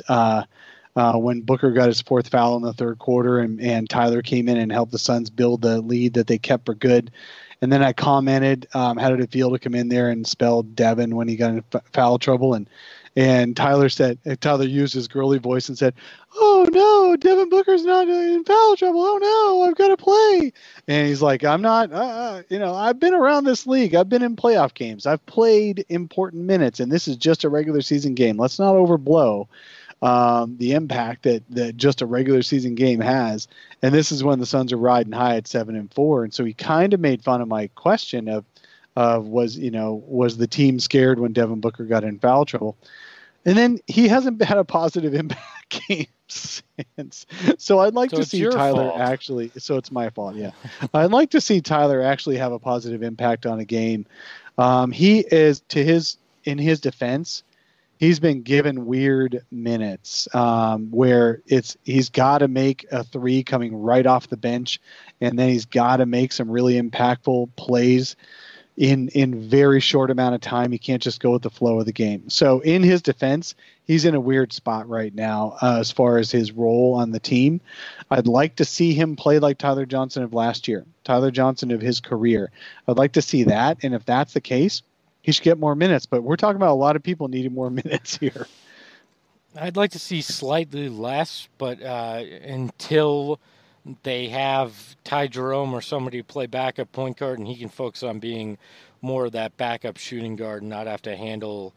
when Booker got his fourth foul in the third quarter, and Tyler came in and helped the Suns build the lead that they kept for good. And then I commented, how did it feel to come in there and spell Devin when he got in foul trouble? And Tyler used his girly voice and said, "Oh no, Devin Booker's not in foul trouble. Oh no, I've got to play." And he's like, "I'm not, I've been around this league. I've been in playoff games. I've played important minutes, and this is just a regular season game. Let's not overblow the impact that just a regular season game has." And this is when the Suns are riding high at 7-4. And so he kind of made fun of my question of was the team scared when Devin Booker got in foul trouble? And then he hasn't had a positive impact game since. So I'd like to see Tyler actually. So it's my fault. Yeah. I'd like to see Tyler actually have a positive impact on a game. He is in his defense. He's been given weird minutes where he's got to make a three coming right off the bench, and then he's got to make some really impactful plays in very short amount of time. He can't just go with the flow of the game. So in his defense, he's in a weird spot right now as far as his role on the team. I'd like to see him play like Tyler Johnson of last year, Tyler Johnson of his career. I'd like to see that, and if that's the case, he should get more minutes. But we're talking about a lot of people needing more minutes here. I'd like to see slightly less, but until they have Ty Jerome or somebody play backup point guard and he can focus on being more of that backup shooting guard and not have to handle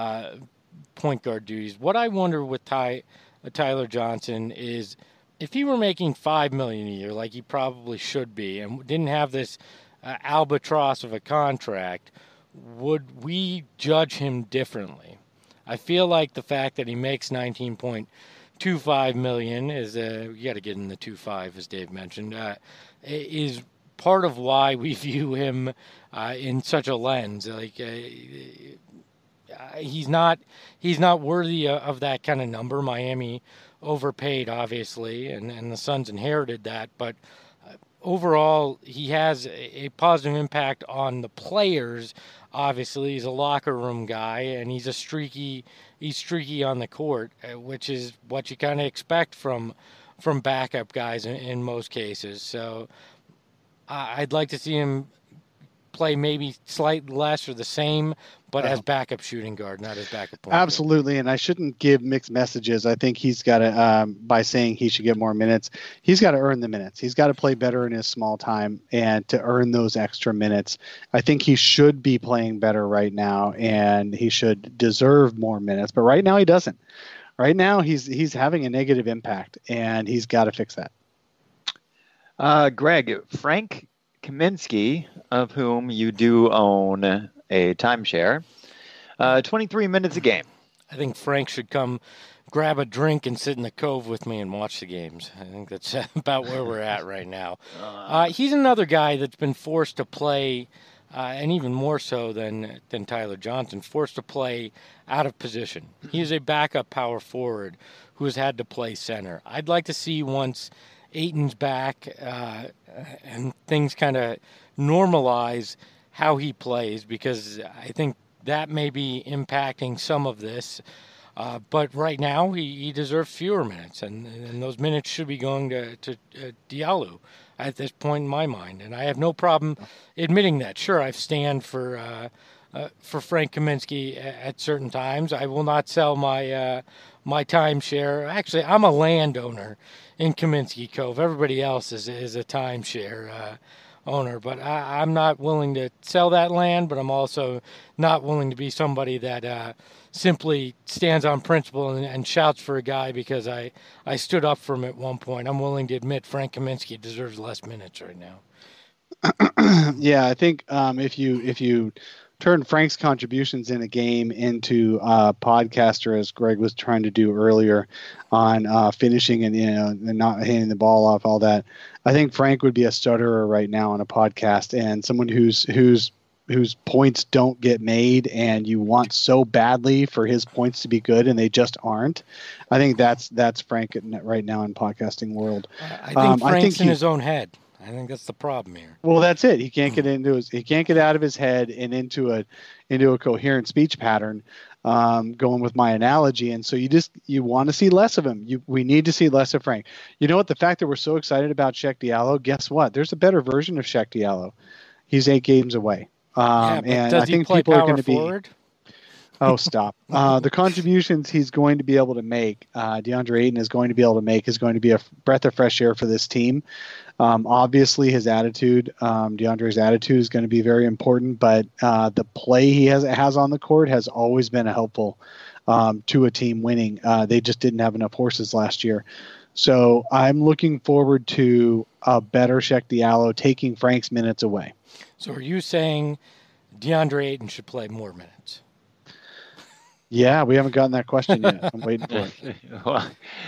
point guard duties. What I wonder with Tyler Johnson is if he were making $5 million a year, like he probably should be, and didn't have this albatross of a contract, would we judge him differently? I feel like the fact that he makes $19.25 million is you got to get in the 2.5, as Dave mentioned, is part of why we view him in such a lens. Like he's not worthy of that kind of number. Miami overpaid, obviously, and the Suns inherited that, but overall, he has a positive impact on the players. Obviously, he's a locker room guy, and he's streaky on the court, which is what you kind of expect from backup guys in most cases. So I'd like to see him play maybe slightly less or the same, but as backup shooting guard, not as backup point Absolutely, guard. And I shouldn't give mixed messages. I think he's got to, by saying he should get more minutes, he's got to earn the minutes. He's got to play better in his small time and to earn those extra minutes. I think he should be playing better right now, and he should deserve more minutes. But right now he doesn't. Right now he's having a negative impact, and he's got to fix that. Greg, Frank Kaminsky, of whom you do own a timeshare, 23 minutes a game. I think Frank should come grab a drink and sit in the cove with me and watch the games. I think that's about where we're at right now. He's another guy that's been forced to play and even more so than Tyler Johnson, forced to play out of position. He is a backup power forward who has had to play center. I'd like to see once Ayton's back and things kind of normalize how he plays, because I think that may be impacting some of this. But right now, he deserves fewer minutes, and those minutes should be going to Diallo at this point in my mind. And I have no problem admitting that. Sure, I stand for Frank Kaminsky at certain times. I will not sell my timeshare. Actually, I'm a landowner in Kaminsky Cove. Everybody else is a timeshare owner, but I'm not willing to sell that land, but I'm also not willing to be somebody that simply stands on principle and shouts for a guy because I stood up for him at one point. I'm willing to admit Frank Kaminsky deserves less minutes right now. Yeah, I think if you turn Frank's contributions in a game into a podcaster, as Greg was trying to do earlier on finishing and not handing the ball off, all that, I think Frank would be a stutterer right now on a podcast, and someone whose points don't get made, and you want so badly for his points to be good, and they just aren't. I think that's Frank right now in podcasting world. I think Frank's in his own head. I think that's the problem here. Well, that's it. He can't get out of his head and into a coherent speech pattern. Going with my analogy, and so you want to see less of him. We need to see less of Frank. You know what? The fact that we're so excited about Cheick Diallo, guess what? There's a better version of Cheick Diallo. He's 8 games away. And I think people are going to be. Oh, stop. The contributions he's going to be able to make, DeAndre Ayton is going to be able to make, is going to be a breath of fresh air for this team. Obviously, his attitude, DeAndre's attitude is going to be very important, but the play he has on the court has always been helpful to a team winning. They just didn't have enough horses last year. So I'm looking forward to a better Cheick Diallo taking Frank's minutes away. So are you saying DeAndre Ayton should play more minutes? Yeah, we haven't gotten that question yet. I'm waiting for it. Well,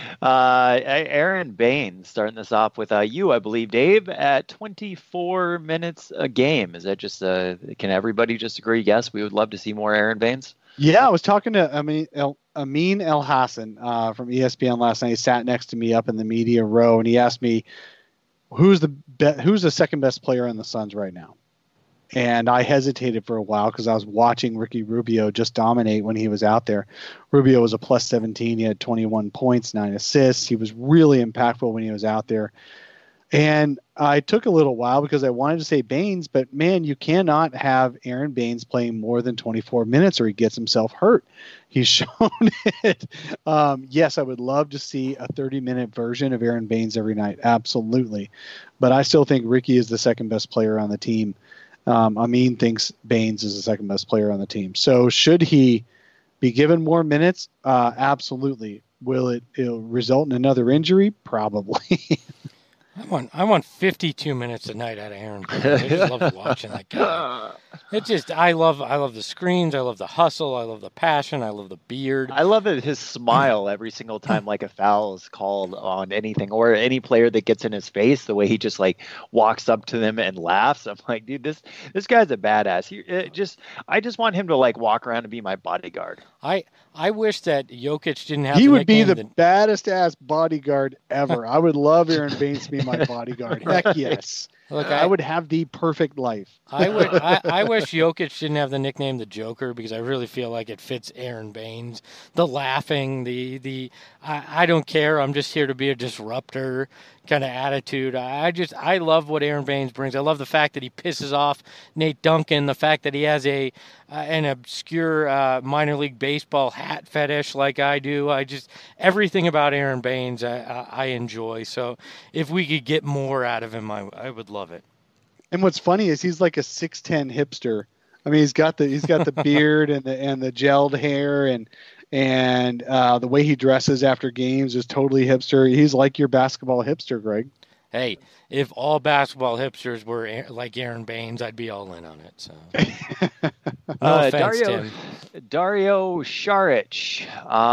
Aaron Baines starting this off with you, I believe, Dave, at 24 minutes a game. Is that just can everybody just agree? Yes, we would love to see more Aaron Baines. Yeah, I was talking to Amin El Hassan from ESPN last night. He sat next to me up in the media row, and he asked me, who's the second best player on the Suns right now? And I hesitated for a while because I was watching Ricky Rubio just dominate when he was out there. Rubio was a plus 17. He had 21 points, 9 assists. He was really impactful when he was out there. And I took a little while because I wanted to say Baines, but man, you cannot have Aaron Baines playing more than 24 minutes or he gets himself hurt. He's shown it. Yes, I would love to see a 30-minute version of Aaron Baines every night. Absolutely. But I still think Ricky is the second best player on the team. Amin thinks Baines is the second best player on the team. So should he be given more minutes? Absolutely. Will it'll result in another injury? Probably. I want 52 minutes a night out of Aaron Baines. I just love watching that guy. I love the screens. I love the hustle. I love the passion. I love the beard. I love his smile every single time like a foul is called on anything or any player that gets in his face. The way he just like walks up to them and laughs. I'm like, dude, this guy's a badass. I just want him to like walk around and be my bodyguard. I wish that Jokic didn't have. He would be the baddest ass bodyguard ever. I would love Aaron Baines to be my bodyguard. Heck yes. Look, I would have the perfect life. I wish Jokic didn't have the nickname the Joker because I really feel like it fits Aaron Baines. The laughing, I don't care. I'm just here to be a disruptor kind of attitude. I love what Aaron Baines brings. I love the fact that he pisses off Nate Duncan. The fact that he has an obscure minor league baseball hat fetish like I do. Everything about Aaron Baines I enjoy. So if we could get more out of him, I would love it. And what's funny is he's like a 6'10" hipster. I mean, he's got the beard and the gelled hair and the way he dresses after games is totally hipster. He's like your basketball hipster, Greg. Hey, if all basketball hipsters were like Aaron Baines, I'd be all in on it. So, no offense, Tim. Dario Saric,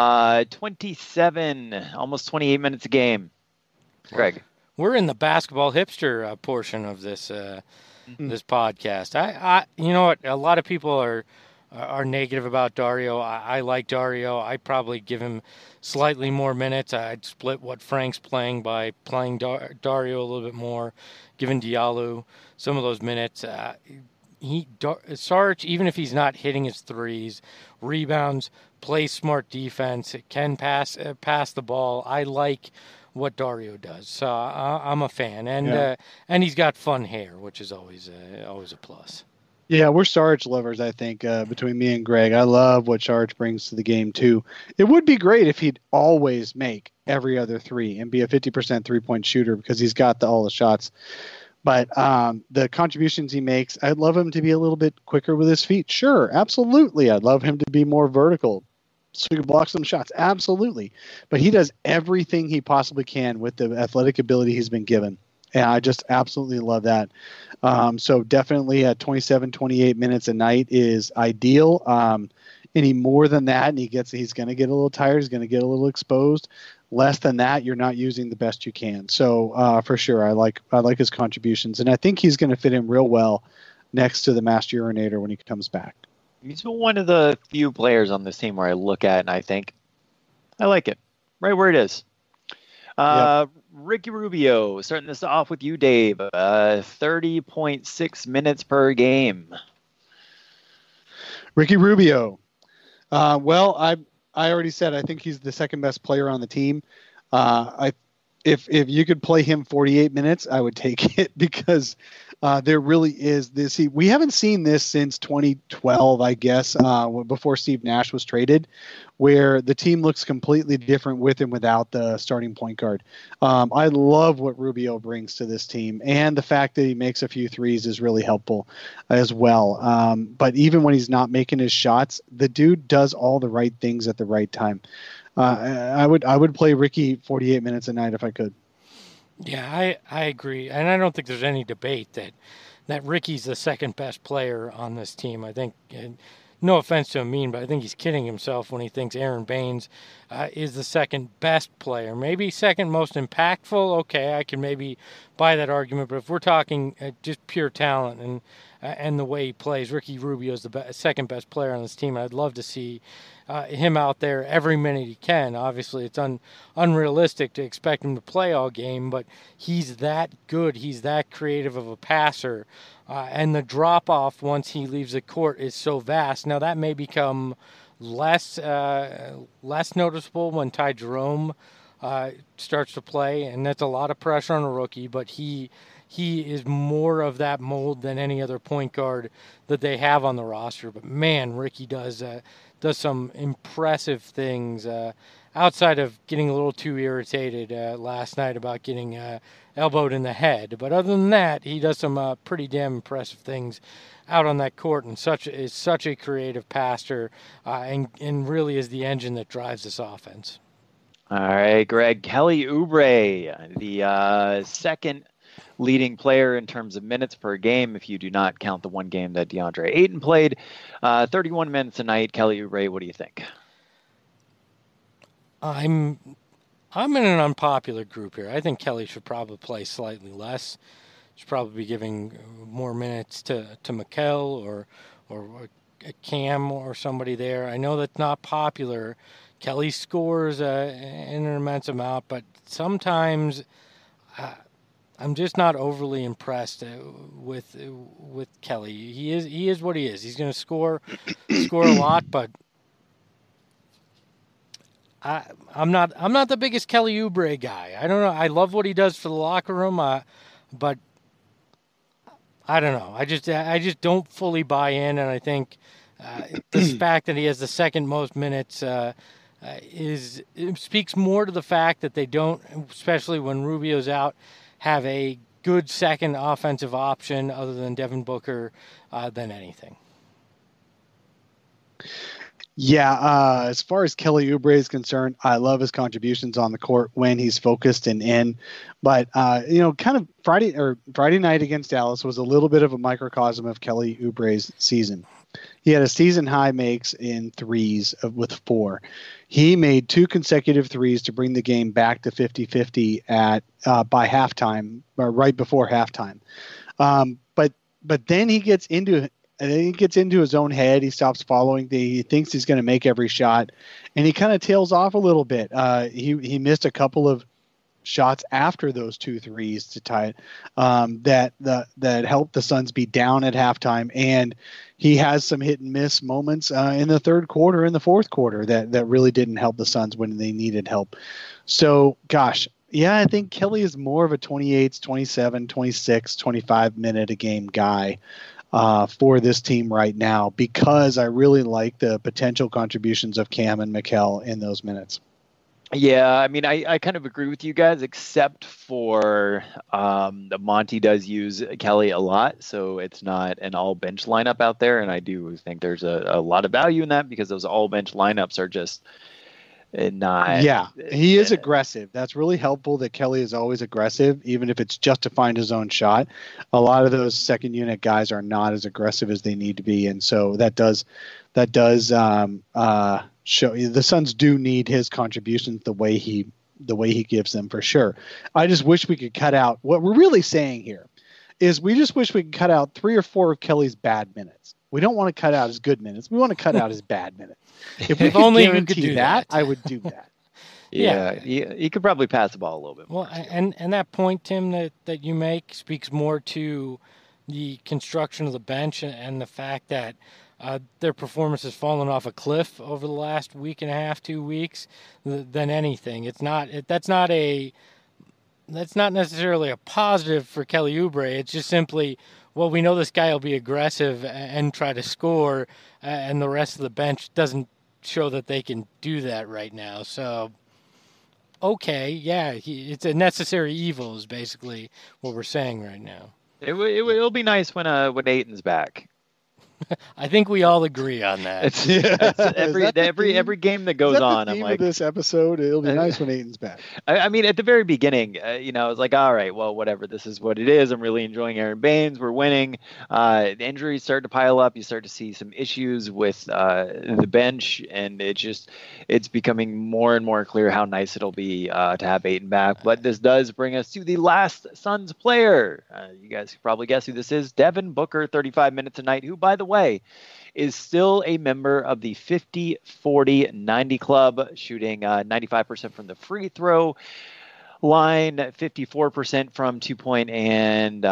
27, almost 28 minutes a game. Greg. We're in the basketball hipster portion of this this podcast. I you know what? A lot of people are negative about Dario. I like Dario. I'd probably give him slightly more minutes. I'd split what Frank's playing by playing Dario a little bit more, giving Diallo some of those minutes. Sarge, even if he's not hitting his threes, rebounds, plays smart defense, can pass the ball. I like what Dario does, so I'm a fan, and he's got fun hair, which is always a plus. Yeah, we're Sarge lovers, I think, between me and Greg. I love what Sarge brings to the game, too. It would be great if he'd always make every other three and be a 50% three-point shooter because he's got all the shots. But the contributions he makes, I'd love him to be a little bit quicker with his feet. Sure, absolutely. I'd love him to be more vertical so he can block some shots. Absolutely. But he does everything he possibly can with the athletic ability he's been given. And I just absolutely love that. So definitely at 27, 28 minutes a night is ideal. Any more than that, and he's going to get a little tired. He's going to get a little exposed. Less than that, you're not using the best you can. So for sure, I like his contributions, and I think he's going to fit in real well next to the Master Urinator when he comes back. He's one of the few players on this team where I look at and I think, I like it. Right where it is. Yep. Ricky Rubio, starting this off with you, Dave. 30.6 minutes per game. Ricky Rubio. Well, I already said I think he's the second best player on the team. If you could play him 48 minutes, I would take it because there really is this. We haven't seen this since 2012, I guess, before Steve Nash was traded, where the team looks completely different with and without the starting point guard. I love what Rubio brings to this team, and the fact that he makes a few threes is really helpful as well. But even when he's not making his shots, the dude does all the right things at the right time. I would play Ricky 48 minutes a night if I could. Yeah, I agree, and I don't think there's any debate that Ricky's the second best player on this team. I think, no offense to Amin, but I think he's kidding himself when he thinks Aaron Baines is the second best player. Maybe second most impactful. Okay, I can maybe buy that argument, but if we're talking just pure talent and the way he plays, Ricky Rubio is the second best player on this team. I'd love to see him out there every minute he can. Obviously, it's unrealistic to expect him to play all game, but he's that good. He's that creative of a passer. And the drop-off once he leaves the court is so vast. Now, that may become less noticeable when Ty Jerome starts to play, and that's a lot of pressure on a rookie, but he is more of that mold than any other point guard that they have on the roster. But, man, Ricky does some impressive things outside of getting a little too irritated last night about getting elbowed in the head. But other than that, he does some pretty damn impressive things out on that court, and is such a creative passer and really is the engine that drives this offense. All right, Greg. Kelly Oubre, the second leading player in terms of minutes per game, if you do not count the one game that DeAndre Ayton played. 31 minutes a night. Kelly Oubre, what do you think? I'm in an unpopular group here. I think Kelly should probably play slightly less. Should probably be giving more minutes to Mikal or Cam or somebody there. I know that's not popular. Kelly scores an immense amount, but sometimes I'm just not overly impressed with Kelly. He is what he is. He's going to score a lot, but I'm not the biggest Kelly Oubre guy. I don't know. I love what he does for the locker room, but I don't know. I just don't fully buy in, and I think the fact that he has the second most minutes it speaks more to the fact that they don't, especially when Rubio's out, have a good second offensive option other than Devin Booker than anything. Yeah, as far as Kelly Oubre is concerned, I love his contributions on the court when he's focused and in. But kind of Friday night against Dallas was a little bit of a microcosm of Kelly Oubre's season. He had a season high makes in threes with 4. He made 2 consecutive threes to bring the game back to 50-50 by halftime, or right before halftime. But but then he gets into his own head. He stops following. He thinks he's going to make every shot, and he kind of tails off a little bit. He missed a couple of shots after those 2 threes to tie it that helped the Suns be down at halftime, and he has some hit and miss moments in the third quarter and the fourth quarter that really didn't help the Suns when they needed help. So gosh, yeah, I think Kelly is more of a 28, 27, 26, 25 minute a game guy for this team right now, because I really like the potential contributions of Cam and Mikal in those minutes. Yeah, I mean, I kind of agree with you guys, except for Monty does use Kelly a lot, so it's not an all bench lineup out there, and I do think there's a lot of value in that, because those all bench lineups are just not. Yeah, he is aggressive. That's really helpful that Kelly is always aggressive, even if it's just to find his own shot. A lot of those second unit guys are not as aggressive as they need to be, and so that does show the Suns do need his contributions the way he gives them, for sure. I just wish we could cut out what we're really saying here is we just wish we could cut out 3 or 4 of Kelly's bad minutes. We don't want to cut out his good minutes. We want to cut out his bad minutes. If we could only guarantee could do that, I would do that. Yeah, he could probably pass the ball a little bit more. Well, and that point, Tim, that you make speaks more to the construction of the bench and the fact that their performance has fallen off a cliff over the last week and a half, 2 weeks, than anything. That's not necessarily a positive for Kelly Oubre. It's just simply, well, we know this guy will be aggressive and try to score, and the rest of the bench doesn't show that they can do that right now. So, okay, yeah, it's a necessary evil is basically what we're saying right now. It'll be nice when Ayton's back. I think we all agree on that. Every game that goes on, I'm like, this episode, it'll be nice when Ayton's back. I mean, at the very beginning, I was like, all right, well, whatever. This is what it is. I'm really enjoying Aaron Baines. We're winning. The injuries start to pile up. You start to see some issues with the bench, and it's becoming more and more clear how nice it'll be to have Ayton back. But this does bring us to the last Suns player. You guys can probably guess who this is. Devin Booker, 35 minutes a night, who, by the way, is still a member of the 50-40-90 club, shooting 95% from the free throw line, 54% from 2-point, and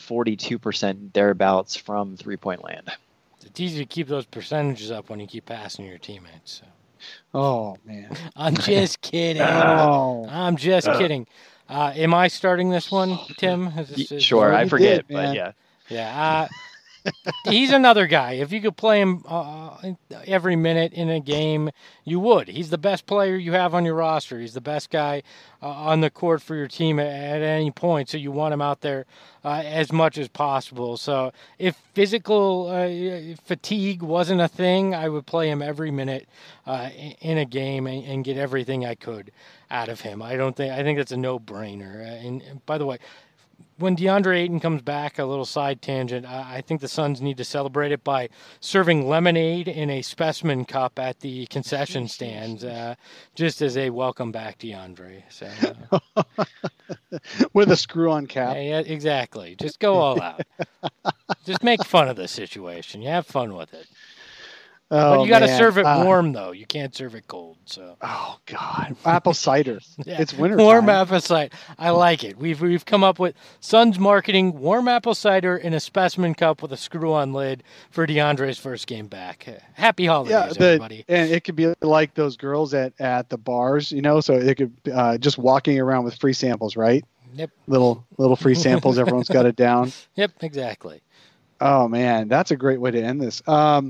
42% thereabouts from 3-point land. It's easy to keep those percentages up when you keep passing your teammates. So. Oh, man. I'm just kidding. Oh. I'm just kidding. Am I starting this one, Tim? Sure, I forget, but yeah. Yeah. He's another guy. If you could play him every minute in a game, you would. He's the best player you have on your roster. He's the best guy on the court for your team at any point, so you want him out there as much as possible. So if physical fatigue wasn't a thing, I would play him every minute in a game and get everything I could out of him. I think that's a no-brainer. And by the way, when DeAndre Ayton comes back, a little side tangent, I think the Suns need to celebrate it by serving lemonade in a specimen cup at the concession stands, just as a welcome back DeAndre. So, with a screw-on cap. Yeah, exactly. Just go all out. Just make fun of the situation. You have fun with it. Oh, but you got to serve it warm, though. You can't serve it cold. So. Oh God, apple cider. Yeah. It's winter. Warm apple cider. I like it. We've come up with Suns marketing: warm apple cider in a specimen cup with a screw-on lid for DeAndre's first game back. Happy holidays, everybody. And it could be like those girls at the bars, So it could just walking around with free samples, right? Yep. Little free samples. Everyone's got it down. Yep. Exactly. Oh man, that's a great way to end this.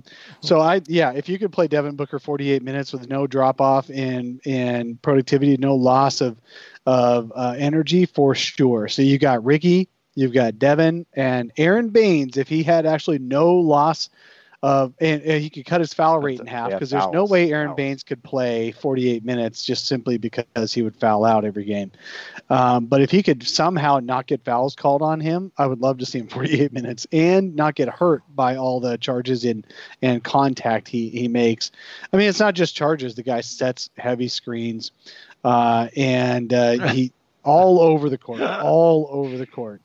If you could play Devin Booker 48 minutes with no drop off in productivity, no loss of energy, for sure. So you got Ricky, you've got Devin, and Aaron Baines. If he had actually no loss of, and he could cut his foul rate in half, because there's no way Aaron Baines could play 48 minutes just simply because he would foul out every game. But if he could somehow not get fouls called on him, I would love to see him 48 minutes and not get hurt by all the charges and contact he makes. I mean, it's not just charges. The guy sets heavy screens, and All over the court. All over the court.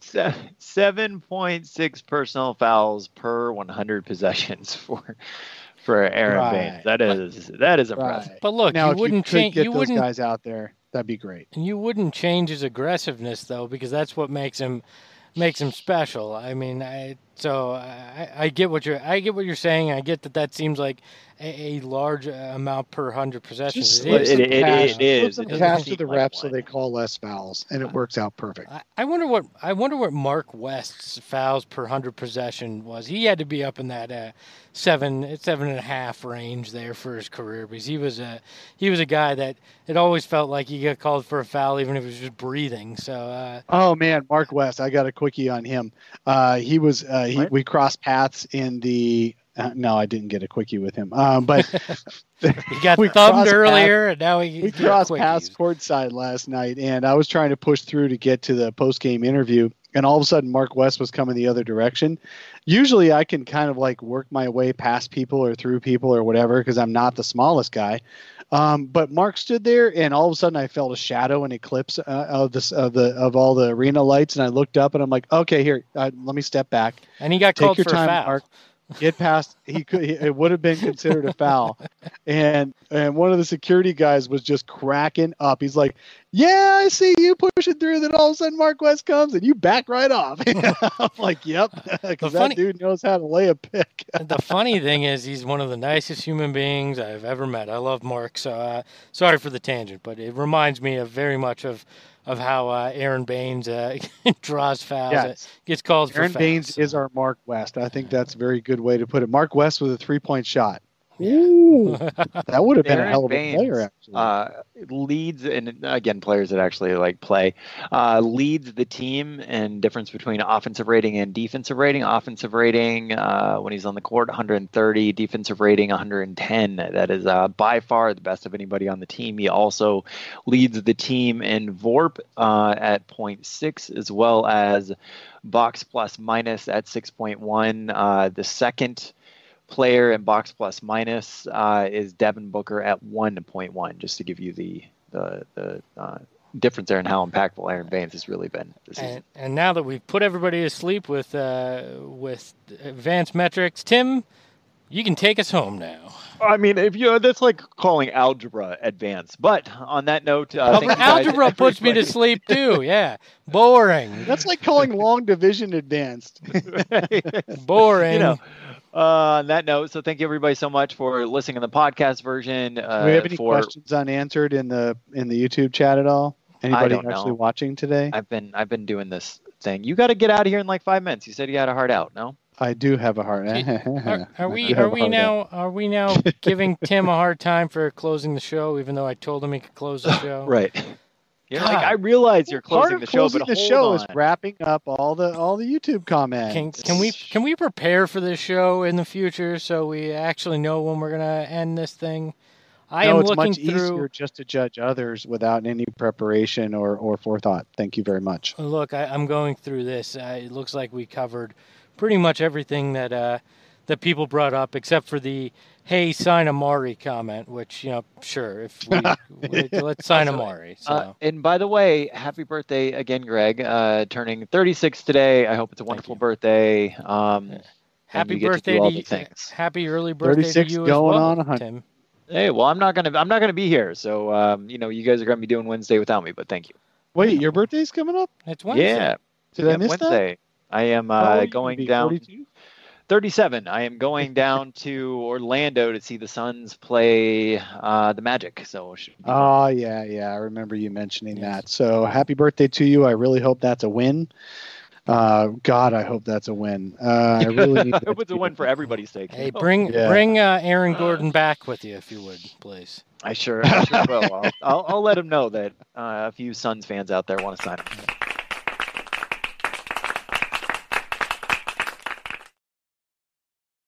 7.6 personal fouls per 100 possessions for Aaron Baines. That is impressive. Right. But look, Now, you wouldn't change. Get those guys out there. That'd be great. And you wouldn't change his aggressiveness though, because that's what makes him special. I mean, I get what you're saying. I get that seems like a large amount per 100 possessions. It is. Flip them cash to the reps so they call less fouls, and it works out perfect. I wonder what Mark West's fouls per 100 possession was. He had to be up in that 7.5 range there for his career, because he was a guy that it always felt like he got called for a foul even if he was just breathing. So oh man, Mark West, I got a quickie on him. We crossed paths in the. No, I didn't get a quickie with him. But he got thumbed earlier, and now we crossed paths courtside last night, and I was trying to push through to get to the post-game interview, and all of a sudden Mark West was coming the other direction. Usually I can kind of like work my way past people or through people or whatever because I'm not the smallest guy. But Mark stood there, and all of a sudden I felt a shadow and eclipse of all the arena lights, and I looked up and I'm like, okay, here, let me step back. And he got called for a foul. Mark. Get past. It would have been considered a foul, and one of the security guys was just cracking up. He's like, "Yeah, I see you pushing through." Then all of a sudden, Mark West comes, and you back right off. I'm like, "Yep," because that dude knows how to lay a pick. The funny thing is, he's one of the nicest human beings I've ever met. I love Mark. So sorry for the tangent, but it reminds me very much of how Aaron Baines draws fouls. Yes. Gets called for Aaron fouls. Baines is our Mark West. I think that's a very good way to put it. Mark West with a 3-point shot. Yeah. Ooh, that would have been Aaron a hell of a Baines, player, actually. Leads, and again, players that actually like play, leads the team in difference between offensive rating and defensive rating. Offensive rating, when he's on the court, 130. Defensive rating, 110. That is by far the best of anybody on the team. He also leads the team in VORP at 0.6, as well as box plus minus at 6.1. The second player in box plus minus is Devin Booker at 1.1, just to give you the difference there in how impactful Aaron Baines has really been this season. And now that we've put everybody to sleep with advanced metrics, Tim, you can take us home now. I mean, that's like calling algebra advanced. But on that note, algebra puts me to sleep too. Yeah, boring. That's like calling long division advanced. Boring. On that note, so thank you everybody so much for listening to the podcast version. Do we have any questions unanswered in the YouTube chat at all? Anybody actually watching today? I've been doing this thing. You got to get out of here in like 5 minutes. You said you had a heart out. No, I do have a heart. Are we now giving Tim a hard time for closing the show, even though I told him he could close the show? Right. You're like, I realize you're closing the show, but the show is wrapping up all the YouTube comments. Can we prepare for this show in the future so we actually know when we're gonna end this thing? It's much easier just to judge others without any preparation or forethought. Thank you very much. Look, I'm going through this. It looks like we covered pretty much everything that people brought up, except for the "Hey, sign Amari" comment, which, sure, if let's sign Amari. So. And by the way, happy birthday again, Greg, turning 36 today. I hope it's a wonderful birthday. Happy birthday to you. Happy early birthday to you as well, Tim. Hey, well, I'm not gonna be here, so you guys are gonna be doing Wednesday without me, but thank you. Wait, your birthday's coming up? It's Wednesday. Yeah. Did I miss Wednesday? That? I am going down. 42? 37. I am going down to Orlando to see the Suns play the Magic. So. Yeah. I remember you mentioning that. So happy birthday to you. I really hope that's a win. God, I hope that's a win. I really need I hope it's a win for everybody's sake. Hey, bring Aaron Gordon back with you, if you would, please. I sure will. I'll let him know that a few Suns fans out there want to sign him.